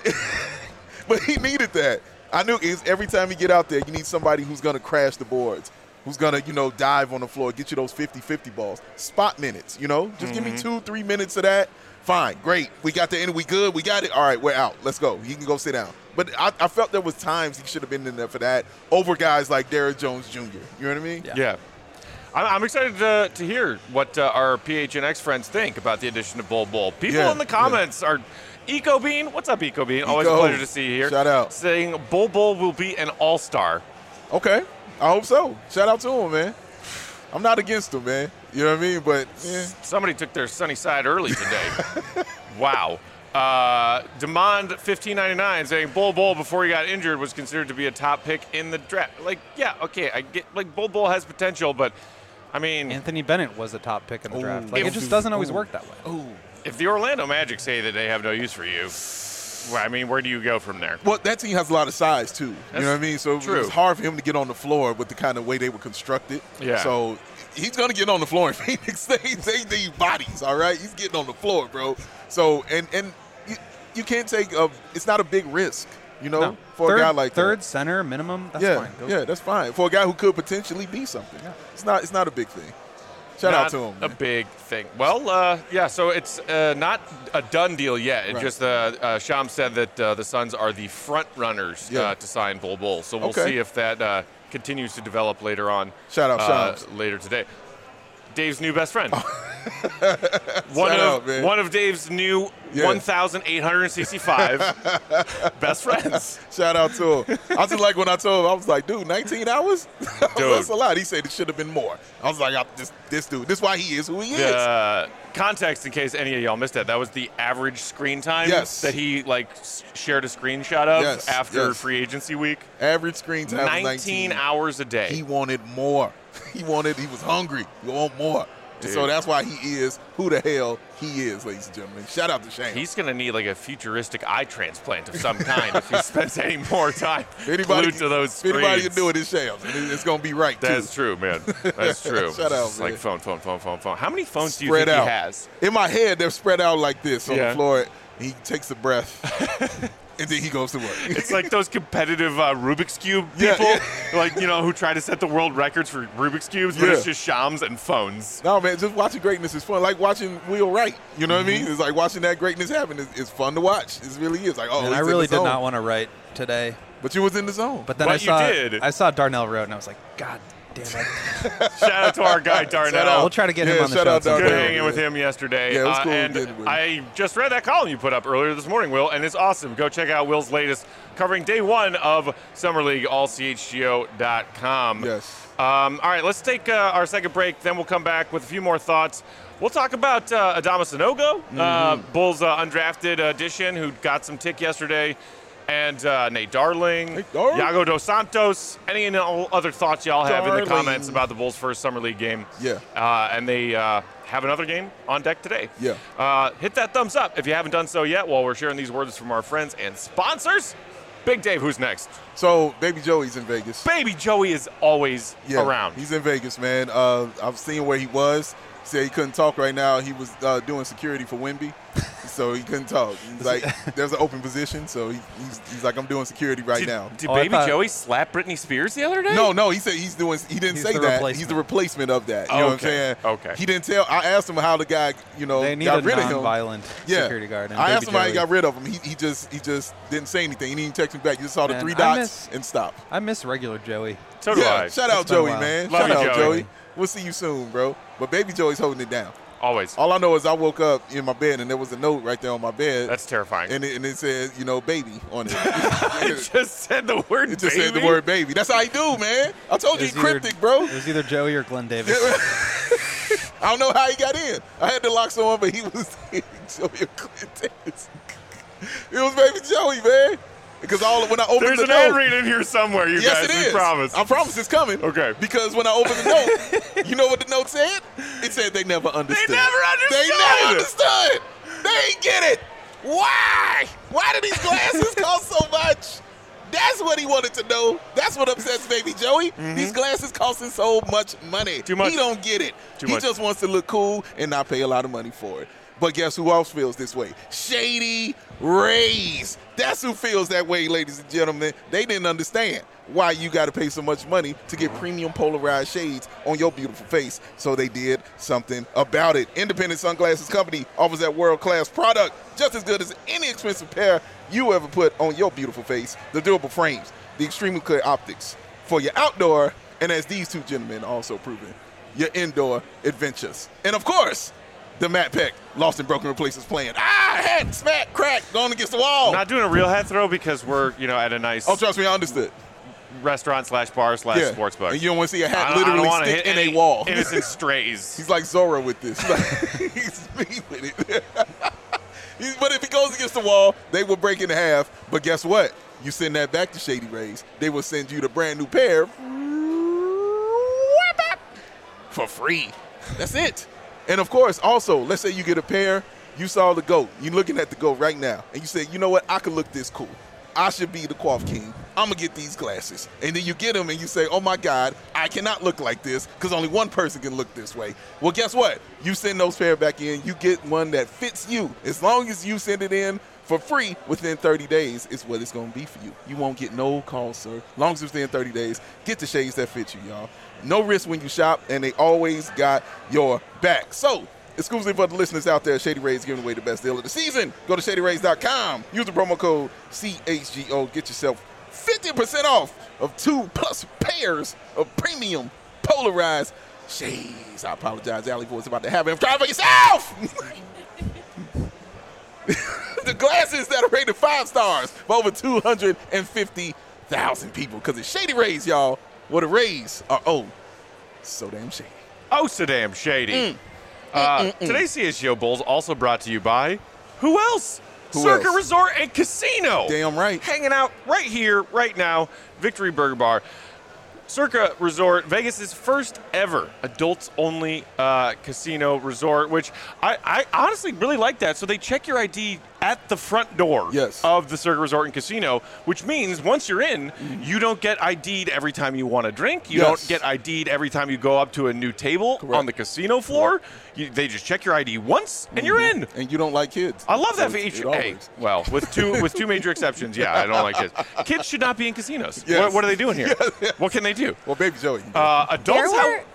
but he needed that. I knew is every time you get out there, you need somebody who's gonna crash the boards, who's gonna, you know, dive on the floor, get you those fifty-fifty balls. Spot minutes, you know? Just give me two, three minutes of that. Fine, great. We got the end, we good, we got it. All right, we're out. Let's go. You can go sit down. But I, I felt there was times he should have been in there for that over guys like Derrick Jones Junior You know what I mean? Yeah. Yeah. I'm, I'm excited to, to hear what uh, our P H N X friends think about the addition of Bull Bull. People Yeah, in the comments are Eco Bean. What's up, Eco Bean? Always Eco. a pleasure to see you here. Shout out. Saying Bull Bull will be an all-star. Okay. I hope so. Shout out to him, man. I'm not against him, man. You know what I mean? But yeah. Somebody took their sunny side early today. Wow. Uh, Demand fifteen ninety-nine saying Bull Bull before he got injured was considered to be a top pick in the draft. Like, yeah, okay, I get like Bull Bull has potential, but I mean, Anthony Bennett was a top pick in the Ooh. draft. Like, If- it just doesn't always Ooh. work that way. Ooh. if the Orlando Magic say that they have no use for you, well, I mean, where do you go from there? Well, that team has a lot of size too. That's you know what I mean? So true. it was hard for him to get on the floor with the kind of way they were constructed. Yeah. So he's gonna get on the floor in Phoenix. they they need bodies, all right? He's getting on the floor, bro. So and and you, you can't take a. It's not a big risk, you know, No. for third, a guy like third that. center minimum. That's yeah, fine. Go. yeah, that's fine for a guy who could potentially be something. Yeah. It's not. It's not a big thing. Shout Not out to him. a man. big thing. Well, uh, yeah, so it's uh, not a done deal yet. It Right. just uh, uh, Sham said that uh, the Suns are the front runners Yeah. uh, to sign Bull Bull. So we'll Okay. see if that uh, continues to develop later on. Shout out uh, Shams. later today. Dave's new best friend. one Shout of out, man. one of Dave's new Yeah. one thousand eight hundred sixty-five best friends. Shout out to him. I was just like when I told him, I was like, dude, nineteen hours? Dude. That's a lot. He said it should have been more. I was like, I, this, this dude, this is why he is who he is. Uh, context, in case any of y'all missed that, that was the average screen time Yes. that he like s- shared a screenshot of Yes, after yes. free agency week. Average screen time was nineteen nineteen hours a day. He wanted more. He wanted, he was hungry. He want more. And so Dude. that's why he is who the hell he is, ladies and gentlemen. Shout out to Shane. He's gonna need like a futuristic eye transplant of some kind if he spends any more time If anybody, glued to those if screens. anybody can do it, it's Shams. And it- it's going to be right, too. That's true, man. That's true. Shout out, It's man. like phone, phone, phone, phone, phone. How many phones do you Spread think out. he has? In my head, they're spread out like this on Yeah. the floor. He takes a breath, and then he goes to work. It's like those competitive uh, Rubik's Cube Yeah, people, yeah. like, you know, who try to set the world records for Rubik's Cubes, but Yeah. it's just Shams and phones. No, man, just watching greatness is fun. Like watching Will Wright. You know what I Mm-hmm. mean? It's like watching that greatness happen. It's, it's fun to watch. It really is. Like, oh, And he's I in really the did zone. not want to write today. But you was in the zone. But then But I you saw did. I saw Darnell Road, and I was like, God damn it. Shout out to our guy Darnell. out. We'll try to get him Yeah, on the shout show. out at some Good Darnell. point. hanging with him yesterday. Yeah, it was Uh, cool and getting with him. I just read that column you put up earlier this morning, Will, and it's awesome. Go check out Will's latest covering day one of Summer League, all C H G O dot com. Yes. Um, all right, let's take uh, our second break. Then we'll come back with a few more thoughts. We'll talk about uh, Adama Sanogo, Mm-hmm. uh, Bulls uh, undrafted addition, who got some tick yesterday, and uh, Nate Darling, Nate Darling. Iago Dos Santos. Any and all other thoughts y'all have in the Darling. comments about the Bulls' first Summer League game? Yeah. Uh, and they uh, have another game on deck today. Yeah. Uh, hit that thumbs up if you haven't done so yet while we're sharing these words from our friends and sponsors. Big Dave, who's next? So, Baby Joey's in Vegas. Baby Joey is always Yeah, around. He's in Vegas, man. Uh, I've seen where he was. He said he couldn't talk right now. He was uh, doing security for Wemby, so he couldn't talk. He's like, there's an open position, so he, he's, he's like, I'm doing security right Did, now. did Oh, I Baby thought- Joey slap Britney Spears the other day? No, no, he said he's doing. He didn't He's say the that. replacement. He's the replacement of that. You know what I'm Okay, saying? okay. He didn't tell. I asked him how the guy, you know, They need got a rid of him. non-violent Yeah. security guard. and I Baby asked him how he Joey- got rid of him. He, he just he just didn't say anything. He didn't even text me back. He just saw the Man, three I dots miss- and stopped. I miss regular Joey. So do yeah, I. shout out It's been a Joey, while. man. Love shout you, out Joey. Joey. We'll see you soon, bro. But Baby Joey's holding it down. Always. All I know is I woke up in my bed and there was a note right there on my bed. That's terrifying. and it, and it said, you know, baby on it. it just said the word It just baby. said the word baby. That's how he do, man. I told you It he was either- cryptic, bro. It was either Joey or Glenn Davis. I don't know how he got in. I had the locks on, but he was Joey Clinton. It was baby Joey, man. Because all when I opened There's the an ad note, read in here somewhere, you yes, guys. it we is. promise. I promise it's coming. Okay. Because when I opened the note, you know what the note said? It said they never understood. never understood. They never understood. They ain't get it. Why? Why do these glasses cost so much? That's what he wanted to know. That's what upsets baby Joey. These glasses costing so much money. Too much. He don't get it. Too he much. just wants to look cool and not pay a lot of money for it. But guess who else feels this way? Shady Rays. That's who feels that way, ladies and gentlemen. They didn't understand why you got to pay so much money to get premium polarized shades on your beautiful face. So they did something about it. Independent Sunglasses Company offers that world-class product just as good as any expensive pair you ever put on your beautiful face. The durable frames, the extremely clear optics for your outdoor, and as these two gentlemen also proven, your indoor adventures. And of course, the Matt Peck Lost and Broken Replacements plan. Ah, hat, smack, crack, going against the wall. I'm not doing a real head throw because we're, you know, at a nice Oh, trust me, I understood. restaurant slash bar slash Yeah. sports book. And you don't want to see a I hat don't, I don't literally want to stick hit in any a wall. innocent strays. He's like Zorro with this. He's me with it. He's- but if he goes against the wall, they will break in half. But guess what? You send that back to Shady Rays, they will send you the brand new pair for free. That's it. And of course, also, let's say you get a pair, you saw the GOAT, you're looking at the GOAT right now, and you say, you know what, I could look this cool. I should be the Quaff King. I'm going to get these glasses. And then you get them and you say, oh my God, I cannot look like this because only one person can look this way. Well, guess what? You send those pair back in, you get one that fits you. As long as you send it in for free within thirty days, is what it's going to be for you. You won't get no calls, sir. As long as it's within thirty days, get the shades that fit you, y'all. No risk when you shop, and they always got your back. So, exclusively for the listeners out there, Shady Rays giving away the best deal of the season. Go to shady rays dot com. Use the promo code C H G O. Get yourself fifty percent off of two plus pairs of premium polarized shades. I apologize, Allie Boy's about to have him. Try for yourself! The glasses that are rated five stars for over two hundred fifty thousand people. Because it's Shady Rays, y'all. Well, the Rays are, oh, so damn shady. Oh, so damn shady. Mm. Uh, today's C H G O Bulls also brought to you by who else? Who Circa else? Resort and Casino. Damn right. Hanging out right here, right now, Victory Burger Bar. Circa Resort, Vegas' first ever adults-only uh, casino resort, which I, I honestly really like that. So they check your I D at the front door Yes. of the Circa Resort and Casino, which means once you're in, you don't get I D'd every time you want to drink. You Yes. don't get I D'd every time you go up to a new table Correct. on the casino floor. You, they just check your I D once, and you're in. And you don't like kids. I love that So feature. it Hey, always- well, with two with two major exceptions, yeah, I don't like kids. Kids should not be in casinos. Yes. What, what are they doing here? What can they do? Well, baby Joey. Uh, There adults, were how,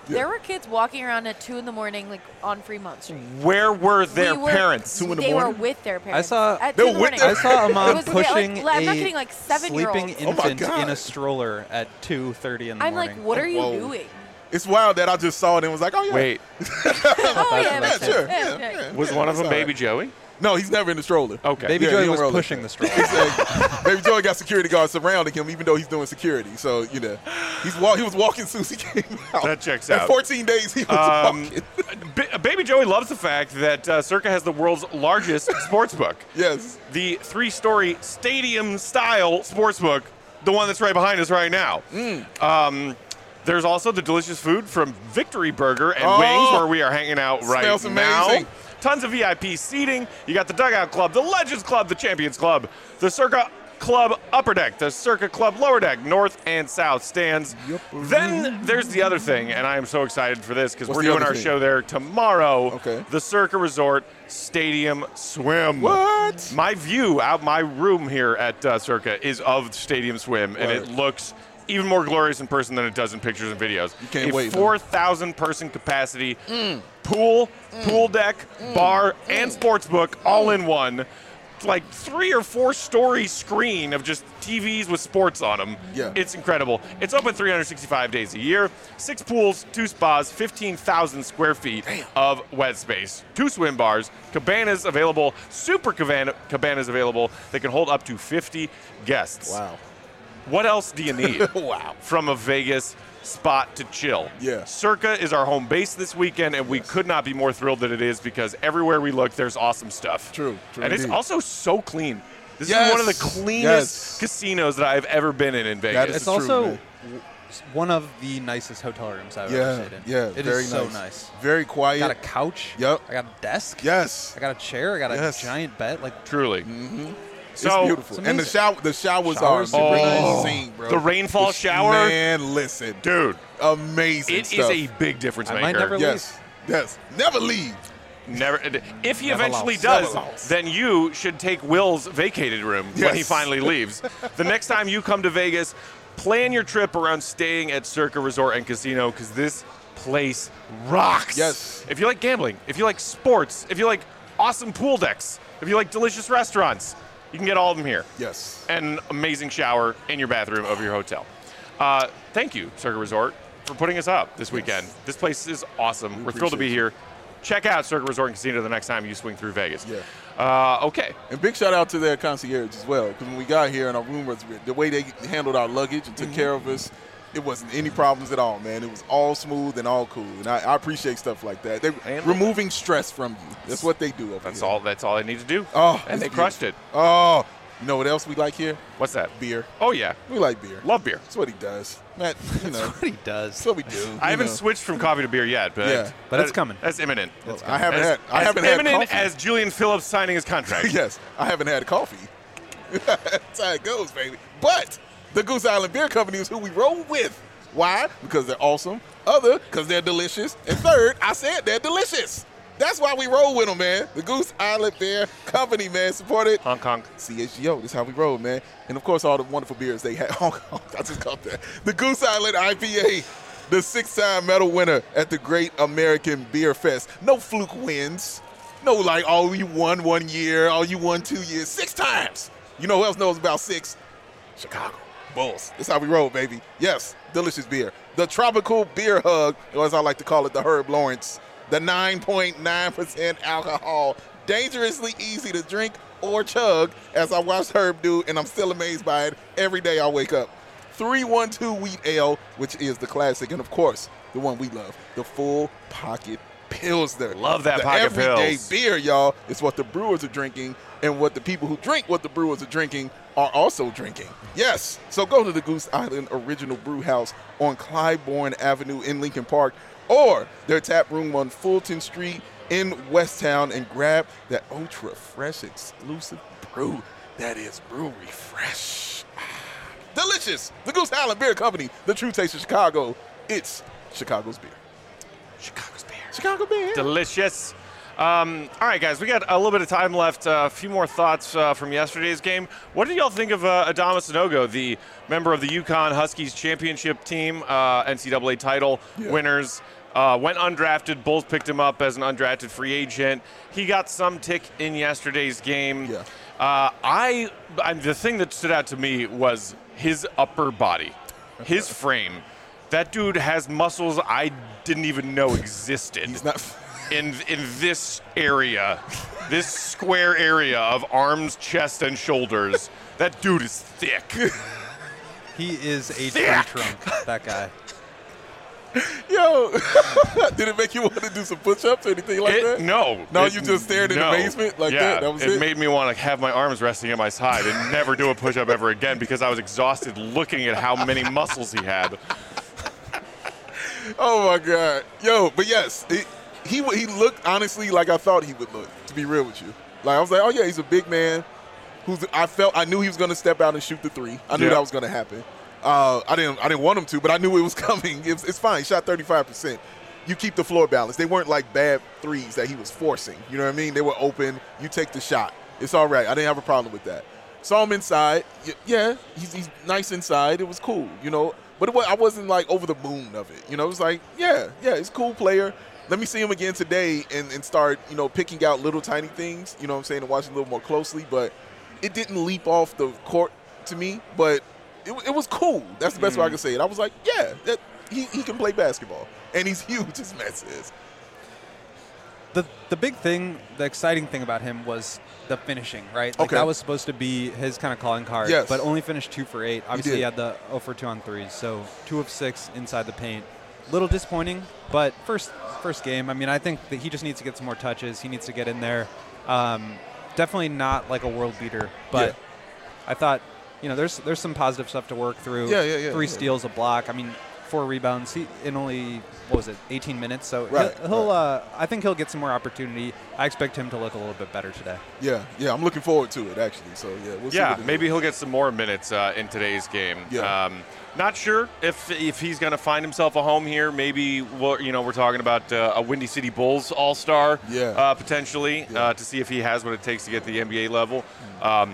There were kids walking around at two in the morning, like on Fremont Street. Where were their We were- parents? Two in the they morning? were with their parents. saw- at They two were in the with morning. their- I saw a It mom was like- pushing like, I'm not a kidding, like sleeping seven-year-olds. Oh my infant God. in a stroller at two thirty in the I'm morning. like, what are you Whoa. doing? It's wild that I just saw it and was like, oh, yeah. Wait, Oh, yeah, Yeah, makes sense. sure. Yeah, Yeah, yeah. yeah. was one of them That's all Baby right. Joey? No, he's never in the stroller. Okay. Baby Yeah, Joy he don't was roll pushing like the stroller. Like, Baby Joey got security guards surrounding him, even though he's doing security. So you know, he's walk, he was walking Susie came out. That checks In out. fourteen days, he was Um, walking. Ba- Baby Joey loves the fact that uh, Circa has the world's largest sports book. Yes. The three-story stadium-style sports book, the one that's right behind us right now. Mm. Um, there's also the delicious food from Victory Burger and Oh. Wings, where we are hanging out right Smells now. amazing. Tons of V I P seating. You got the Dugout Club, the Legends Club, the Champions Club, the Circa Club Upper Deck, the Circa Club Lower Deck, North and South stands. Then there's the other thing, and I am so excited for this because What's we're the doing other our thing? show there tomorrow. Okay. The Circa Resort Stadium Swim. What? My view out my room here at uh, Circa is of Stadium Swim, and it Word. looks even more glorious in person than it does in pictures and videos. You can't a wait, man. four thousand person capacity pool, pool deck, bar, and sports book all in one. Like three or four story screen of just T Vs with sports on them. Yeah. It's incredible. It's open three hundred sixty-five days a year. Six pools, two spas, fifteen thousand square feet of wet space. Two swim bars, cabanas available, super cabana, cabanas available that can hold up to fifty guests. Wow. What else do you need Wow. from a Vegas spot to chill? Yeah. Circa is our home base this weekend, and we could not be more thrilled that it is because everywhere we look, there's awesome stuff. True, true And it's indeed. also so clean. This Yes, is one of the cleanest yes. casinos that I've ever been in in Vegas. That It's true, also man. w- one of the nicest hotel rooms I've Yeah, ever stayed in. yeah, It very is so nice. nice. Very I quiet. got a couch. Yep. I got a desk. Yes. I got a chair. I got a Yes. giant bed. Like Truly. It's So beautiful. it's And the amazing. shower, the showers, Showers are super nice. amazing, bro. The rainfall The- shower, Man, listen. dude, Amazing it is stuff. a big difference I maker. might never Yes. Yes. Never leave. Never. If he Never eventually lost. does, Never lost. then you should take Will's vacated room when he Yes. finally leaves. The next time you come to Vegas, plan your trip around staying at Circa Resort and Casino because this place rocks. Yes. If you like gambling, if you like sports, if you like awesome pool decks, if you like delicious restaurants, you can get all of them here. Yes. And an amazing shower in your bathroom of your hotel. Uh, thank you, Circa Resort, for putting us up this weekend. This place is awesome. We're thrilled to be appreciate here. Check out Circa Resort and Casino the next time you swing through Vegas. Yeah. Uh, okay. And big shout out to their concierge as well, because when we got here and our room was the way they handled our luggage and took Mm-hmm. care of us, it wasn't any problems at all, man. It was all smooth and all cool, and I, I appreciate stuff like that. They're And- removing stress from you. That's what they do over That's here. all. That's all I need to do. Oh, and it's they crushed it. Oh, you know what else we like here? What's that? Beer. Oh yeah, We like beer. love beer. That's what he does, Matt. You know, what he does. that's what we do. I you haven't know. switched from coffee to beer yet, but Yeah. But that- it's coming. That's imminent. I haven't as, had. I as haven't had imminent coffee. as Julian Phillips signing his contract. Yes, I haven't had coffee. That's how it goes, baby. But the Goose Island Beer Company is who we roll with. Why? Because they're awesome. Other, because they're delicious. And third, I said they're delicious. That's why we roll with them, man. The Goose Island Beer Company, man, supported Honk honk. C H G O. This is how we roll, man. And of course, all the wonderful beers they have. Oh, I just caught that. The Goose Island I P A, the six-time medal winner at the Great American Beer Fest. No fluke wins. No, like, oh, you won one year, oh, you won two years. Six times. You know who else knows about six? Chicago Bulls. That's how we roll, baby. Yes, delicious beer. The Tropical Beer Hug, or as I like to call it, the Herb Lawrence. The nine point nine percent alcohol, dangerously easy to drink or chug, as I watched Herb do, and I'm still amazed by it every day I wake up. three one two Wheat Ale, which is the classic, and of course, the one we love, the Full Pocket Pilsner. Love that the Pocket everyday Pils. beer, y'all, is what the brewers are drinking, and what the people who drink what the brewers are drinking are also drinking. Yes, so go to the Goose Island Original Brew House on Clybourne Avenue in Lincoln Park, or their tap room on Fulton Street in Westtown, and grab that ultra fresh exclusive brew that is Brewery Fresh. Ah, delicious. The Goose Island Beer Company, the true taste of Chicago. It's Chicago's beer. Chicago's beer. Chicago beer. Delicious. Um, all right, guys, we got a little bit of time left. Uh, a few more thoughts uh, from yesterday's game. What did y'all think of uh, Adamas Sanogo, the member of the UConn Huskies championship team, uh, N C double A title Yeah. winners? Uh, went undrafted. Bulls picked him up as an undrafted free agent. He got some tick in yesterday's game. Yeah. Uh, I, I the thing that stood out to me was his upper body, his frame. That dude has muscles I didn't even know existed. He's not. in in this area, this square area of arms, chest, and shoulders. That dude is thick. He is a tree Thick. trunk, that guy. Yo, did it make you want to do some push-ups or anything like It- that? no. No, It- you just stared in no. amazement like yeah, that? That was it? made me want to have my arms resting at my side and never do a push-up ever again because I was exhausted looking at how many muscles he had. Oh my God, yo! But yes, it, he he looked honestly like I thought he would look. To be real with you, like I was like, oh yeah, he's a big man. Who's I felt I knew he was going to step out and shoot the three. I knew Yeah. that was going to happen. Uh, I didn't I didn't want him to, but I knew it was coming. It's, it's fine. He shot thirty-five percent. You keep the floor balance. They weren't like bad threes that he was forcing. You know what I mean? They were open. You take the shot. It's all right. I didn't have a problem with that. Saw him inside. Y- Yeah, he's, he's nice inside. It was cool. You know. But it was, I wasn't like over the moon of it. You know, it was like, yeah, yeah, he's a cool player. Let me see him again today and, and start, you know, picking out little tiny things, you know what I'm saying, and watching a little more closely. But it didn't leap off the court to me, but it, it was cool. That's the best way I can say it. I was like, yeah, that, he, he can play basketball. And he's huge, as Matt says. The the big thing, the exciting thing about him was the finishing, right? Like Okay. that was supposed to be his kind of calling card, Yes. but only finished two for eight. Obviously, did. he, had the zero for two on threes, so two of six inside the paint. Little disappointing, but first first game. I mean, I think that he just needs to get some more touches. He needs to get in there. Um, definitely not like a world beater, but I thought, you know, there's there's some positive stuff to work through. Yeah, yeah, yeah, Three yeah. steals, a block. I mean, four rebounds. He in only what was it, eighteen minutes? So Right, he'll, he'll right. uh, I think he'll get some more opportunity. I expect him to look a little bit better today. Yeah, yeah, I'm looking forward to it, actually. So, yeah, we'll see. Yeah, what it maybe is. he'll get some more minutes uh, in today's game. Yeah. Um, not sure if if he's going to find himself a home here. Maybe we're, you know we're talking about uh, a Windy City Bulls All-Star Yeah. uh, potentially Yeah. uh, to see if he has what it takes to get the N B A level. Um,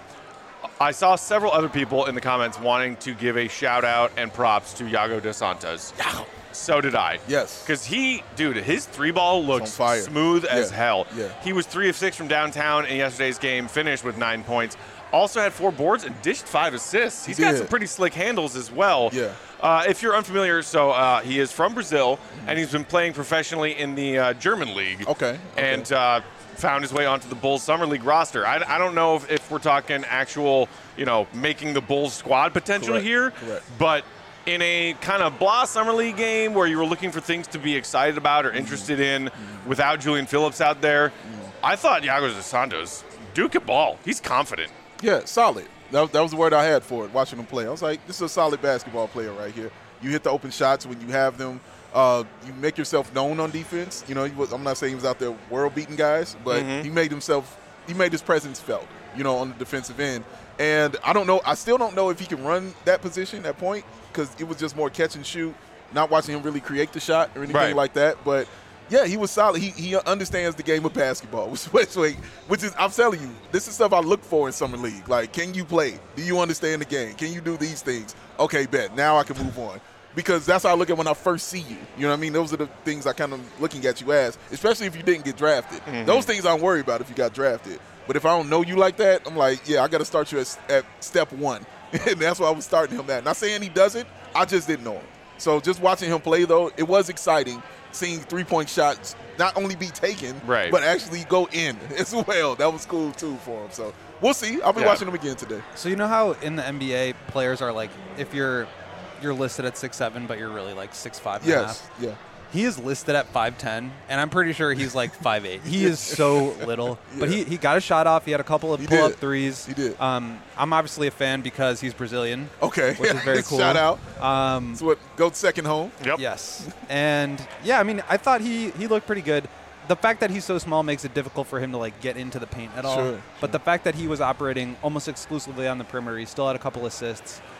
I saw several other people in the comments wanting to give a shout out and props to Yago dos Santos. So did I. Yes. Because he, dude, his three ball looks fire. smooth as Yeah, hell. yeah. He was three of six from downtown in yesterday's game, finished with nine points. Also had four boards and dished five assists. He's got did. some pretty slick handles as well. Yeah. Uh, if you're unfamiliar, so uh, he is from Brazil, and he's been playing professionally in the uh, German league. Okay, okay. And uh, found his way onto the Bulls Summer League roster. I, I don't know if, if we're talking actual, you know, making the Bulls squad potential Correct, here, correct. but in a kind of blah Summer League game where you were looking for things to be excited about or interested in without Julian Phillips out there, I thought Yago dos Santos, Duke at ball. He's confident. Yeah, solid. That, that was the word I had for it, watching him play. I was like, this is a solid basketball player right here. You hit the open shots when you have them. Uh, you make yourself known on defense. You know, he was, I'm not saying he was out there world-beating guys, but he made himself, he made his presence felt, you know, on the defensive end. And I don't know, I still don't know if he can run that position, that point, because it was just more catch and shoot, not watching him really create the shot or anything Right. like that. But yeah, he was solid. He he understands the game of basketball, which, which, which is, I'm telling you, this is stuff I look for in summer league. Like, can you play? Do you understand the game? Can you do these things? Okay, bet. Now I can move on. Because that's how I look at when I first see you. You know what I mean? Those are the things I kind of looking at you as, especially if you didn't get drafted. Those things I don't worry about if you got drafted. But if I don't know you like that, I'm like, yeah, I got to start you at, at step one. And that's why I was starting him at. Not saying he doesn't. I just didn't know him. So just watching him play, though, it was exciting seeing three-point shots not only be taken, Right. but actually go in as well. That was cool, too, for him. So we'll see. I'll be Yeah. watching him again today. So you know how in the N B A players are like, if you're you're listed at six seven, but you're really like six five and a Yes. half. Yeah. He is listed at five ten, and I'm pretty sure he's like five eight. He is so little. But he, he got a shot off. He had a couple of He pull-up did. threes. He did. Um, I'm obviously a fan because he's Brazilian. Okay. Which is very cool. Shout out. Um, That's what go second home. Yep. Yes. And, yeah, I mean, I thought he, he looked pretty good. The fact that he's so small makes it difficult for him to, like, get into the paint at all. Sure, But the fact that he was operating almost exclusively on the perimeter, he still had a couple assists.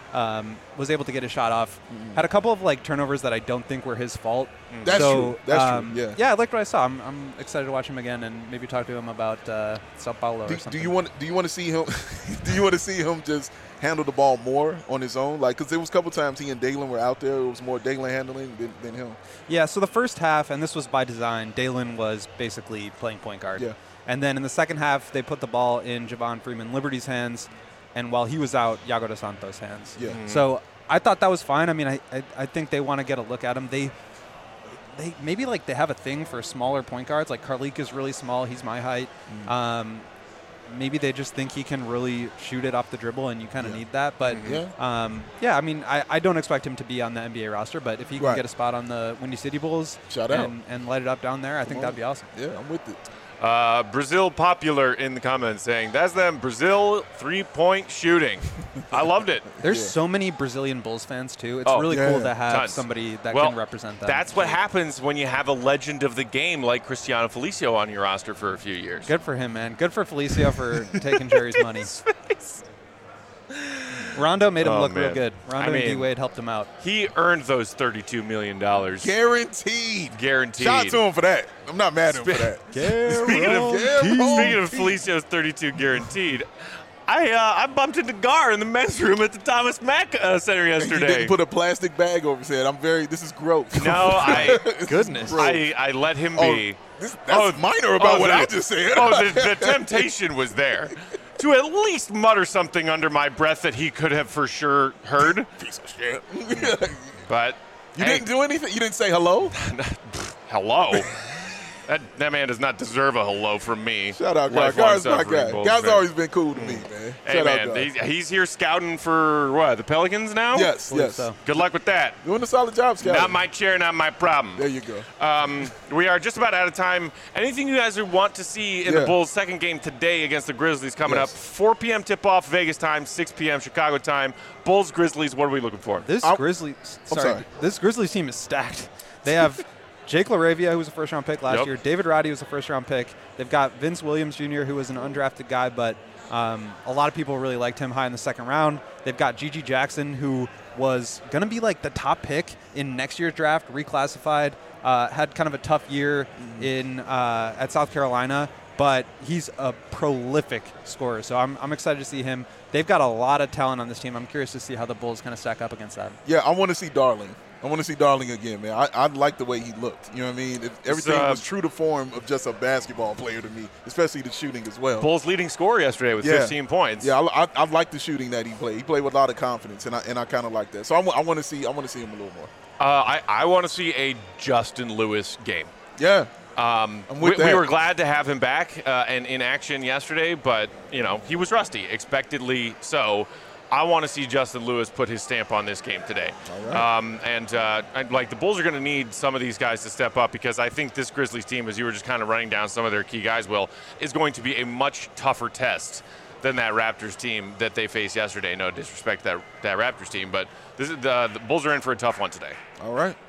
Um, was able to get a shot off. Mm-hmm. Had a couple of like turnovers that I don't think were his fault. Mm. That's so, true. That's um, true. Yeah. Yeah, I liked what I saw. I'm, I'm excited to watch him again and maybe talk to him about uh, Sao Paulo Do, or something. do you want? Do you want to see him? do you want to see him just handle the ball more on his own? Like, because there was a couple times he and Dalen were out there. It was more Dalen handling than, than him. Yeah. So the first half, and this was by design, Dalen was basically playing point guard. Yeah. And then in the second half, they put the ball in Javon Freeman Liberty's hands, and while he was out, Iago dos Santos' hands. Yeah. Mm-hmm. So I thought that was fine. I mean, I I, I think they want to get a look at him. They they maybe like they have a thing for smaller point guards. Like Karlik is really small. He's my height. Mm-hmm. Um, maybe they just think he can really shoot it off the dribble, and you kind of Yeah. need that. But Mm-hmm. Yeah. um, yeah, I mean, I, I don't expect him to be on the N B A roster, but if he can Right. get a spot on the Windy City Bulls Shout out. and, and light it up down there, I think on. that'd be awesome. Yeah, I'm with it. Uh, Brazil Popular in the comments saying, that's them, Brazil three-point shooting. I loved it. There's Yeah. so many Brazilian Bulls fans too. It's Oh, really yeah. cool to have Tons. somebody that Well, can represent them. That's what happens when you have a legend of the game like Cristiano Felicio on your roster for a few years. Good for him, man. Good for Felicio for taking Jerry's money. Rondo made him Oh, look real man. good. Rondo I and mean- D Wade helped him out. He earned those thirty-two million dollars. Guaranteed. Guaranteed. Shout out to him for that. I'm not mad at him for that. Speaking of, Guaranteed. speaking of Felicio's thirty-two guaranteed, I uh, I bumped into Gar in the men's room at the Thomas Mack uh, Center You yesterday. didn't put a plastic bag over his head. I'm very. This is growth. No, I- This is Goodness. growth. I, I let him Oh, be. this, that's minor about oh, what the- I just said. Oh, the, the temptation was there to at least mutter something under my breath that he could have for sure heard. Piece of shit. But You hey, didn't do anything. You didn't say hello. hello. That, that man does not deserve a hello from me. Shout out, Gar. Lifelong Gar's my suffering guy. Bulls Gar's fan. always been cool to me, man. Hey Shout man, out, Gar. he's, he's here scouting for what? The Pelicans now? Yes, Believe yes. so. Good luck with that. Doing a solid job, Scott. Not my chair, not my problem. There you go. Um, we are just about out of time. Anything you guys would want to see in the Yeah. Bulls' second game today against the Grizzlies coming Yes. up? four p.m. tip-off Vegas time, six p.m. Chicago time. Bulls, Grizzlies, what are we looking for? This I'm- Grizzlies, I'm sorry, sorry. this Grizzlies team is stacked. They have Jake LaRavia, who was a first-round pick last Yep. year. David Roddy was a first-round pick. They've got Vince Williams Junior, who was an undrafted guy, but um, a lot of people really liked him high in the second round. They've got Gigi Jackson, who was going to be like the top pick in next year's draft, reclassified. Uh, had kind of a tough year in uh, at South Carolina, but he's a prolific scorer. So I'm, I'm excited to see him. They've got a lot of talent on this team. I'm curious to see how the Bulls kind of stack up against that. Yeah, I want to see Darling. I want to see Darling again, man. I, I like the way he looked. You know what I mean? If everything uh, was true to form of just a basketball player to me, especially the shooting as well. Bulls leading scorer yesterday with Yeah. fifteen points. Yeah, I, I, I like the shooting that he played. He played with a lot of confidence, and I and I kind of like that. So I, wa- I want to see I want to see him a little more. Uh, I, I want to see a Justin Lewis game. Yeah, Um, I'm we, with we that. were glad to have him back uh, and in action yesterday, but you know he was rusty, expectedly so. I want to see Justin Lewis put his stamp on this game today. All right. Um, and uh, and, like the Bulls are going to need some of these guys to step up because I think this Grizzlies team, as you were just kind of running down some of their key guys, Will, is going to be a much tougher test than that Raptors team that they faced yesterday. No disrespect to that that Raptors team, but this is the, the Bulls are in for a tough one today. all right.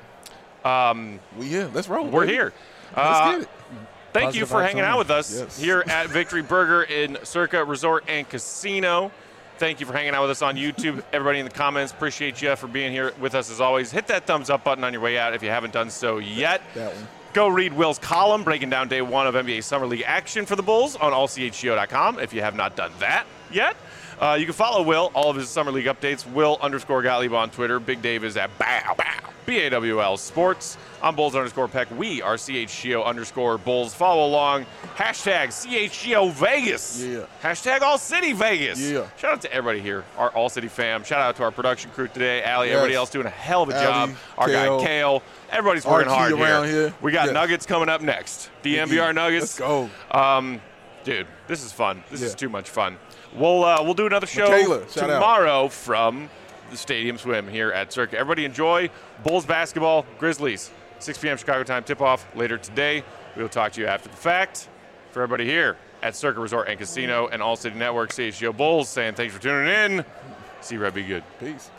Um, We yeah, let's roll. we're baby. here. Let's Uh, get it. Thank Positive you for vibes hanging only. out with us Yes. here at Victory Burger in Circa Resort and Casino. Thank you for hanging out with us on YouTube. Everybody in the comments, appreciate you for being here with us as always. Hit that thumbs up button on your way out if you haven't done so yet. That one. Go read Will's column breaking down day one of N B A Summer League action for the Bulls on all c h g o dot com if you have not done that yet. Uh, you can follow Will, all of his Summer League updates, Will underscore Gottlieb on Twitter. Big Dave is at Bow Bow, B A W L Sports. I'm Bulls underscore Peck. We are C H G O underscore Bulls. Follow along. Hashtag C H G O Vegas. Yeah. Hashtag All City Vegas. Yeah. Shout out to everybody here, our All City fam. Shout out to our production crew today. Allie, Yes. everybody else doing a hell of a Allie, job. Our Kale. guy Kale. Everybody's working Archie hard around here. here. We got Yeah. Nuggets coming up next. D M V R Nuggets. Let's go. Um, dude, this is fun. This is Yeah. too much fun. We'll uh, we'll do another show Michaela, shout out. tomorrow from the Stadium Swim here at Circa. Everybody enjoy Bulls basketball, Grizzlies, six p.m. Chicago time tip-off later today. We will talk to you after the fact. For everybody here at Circa Resort and Casino and All City Network, C H G O Bulls saying thanks for tuning in. See you, Red. Be good. Peace.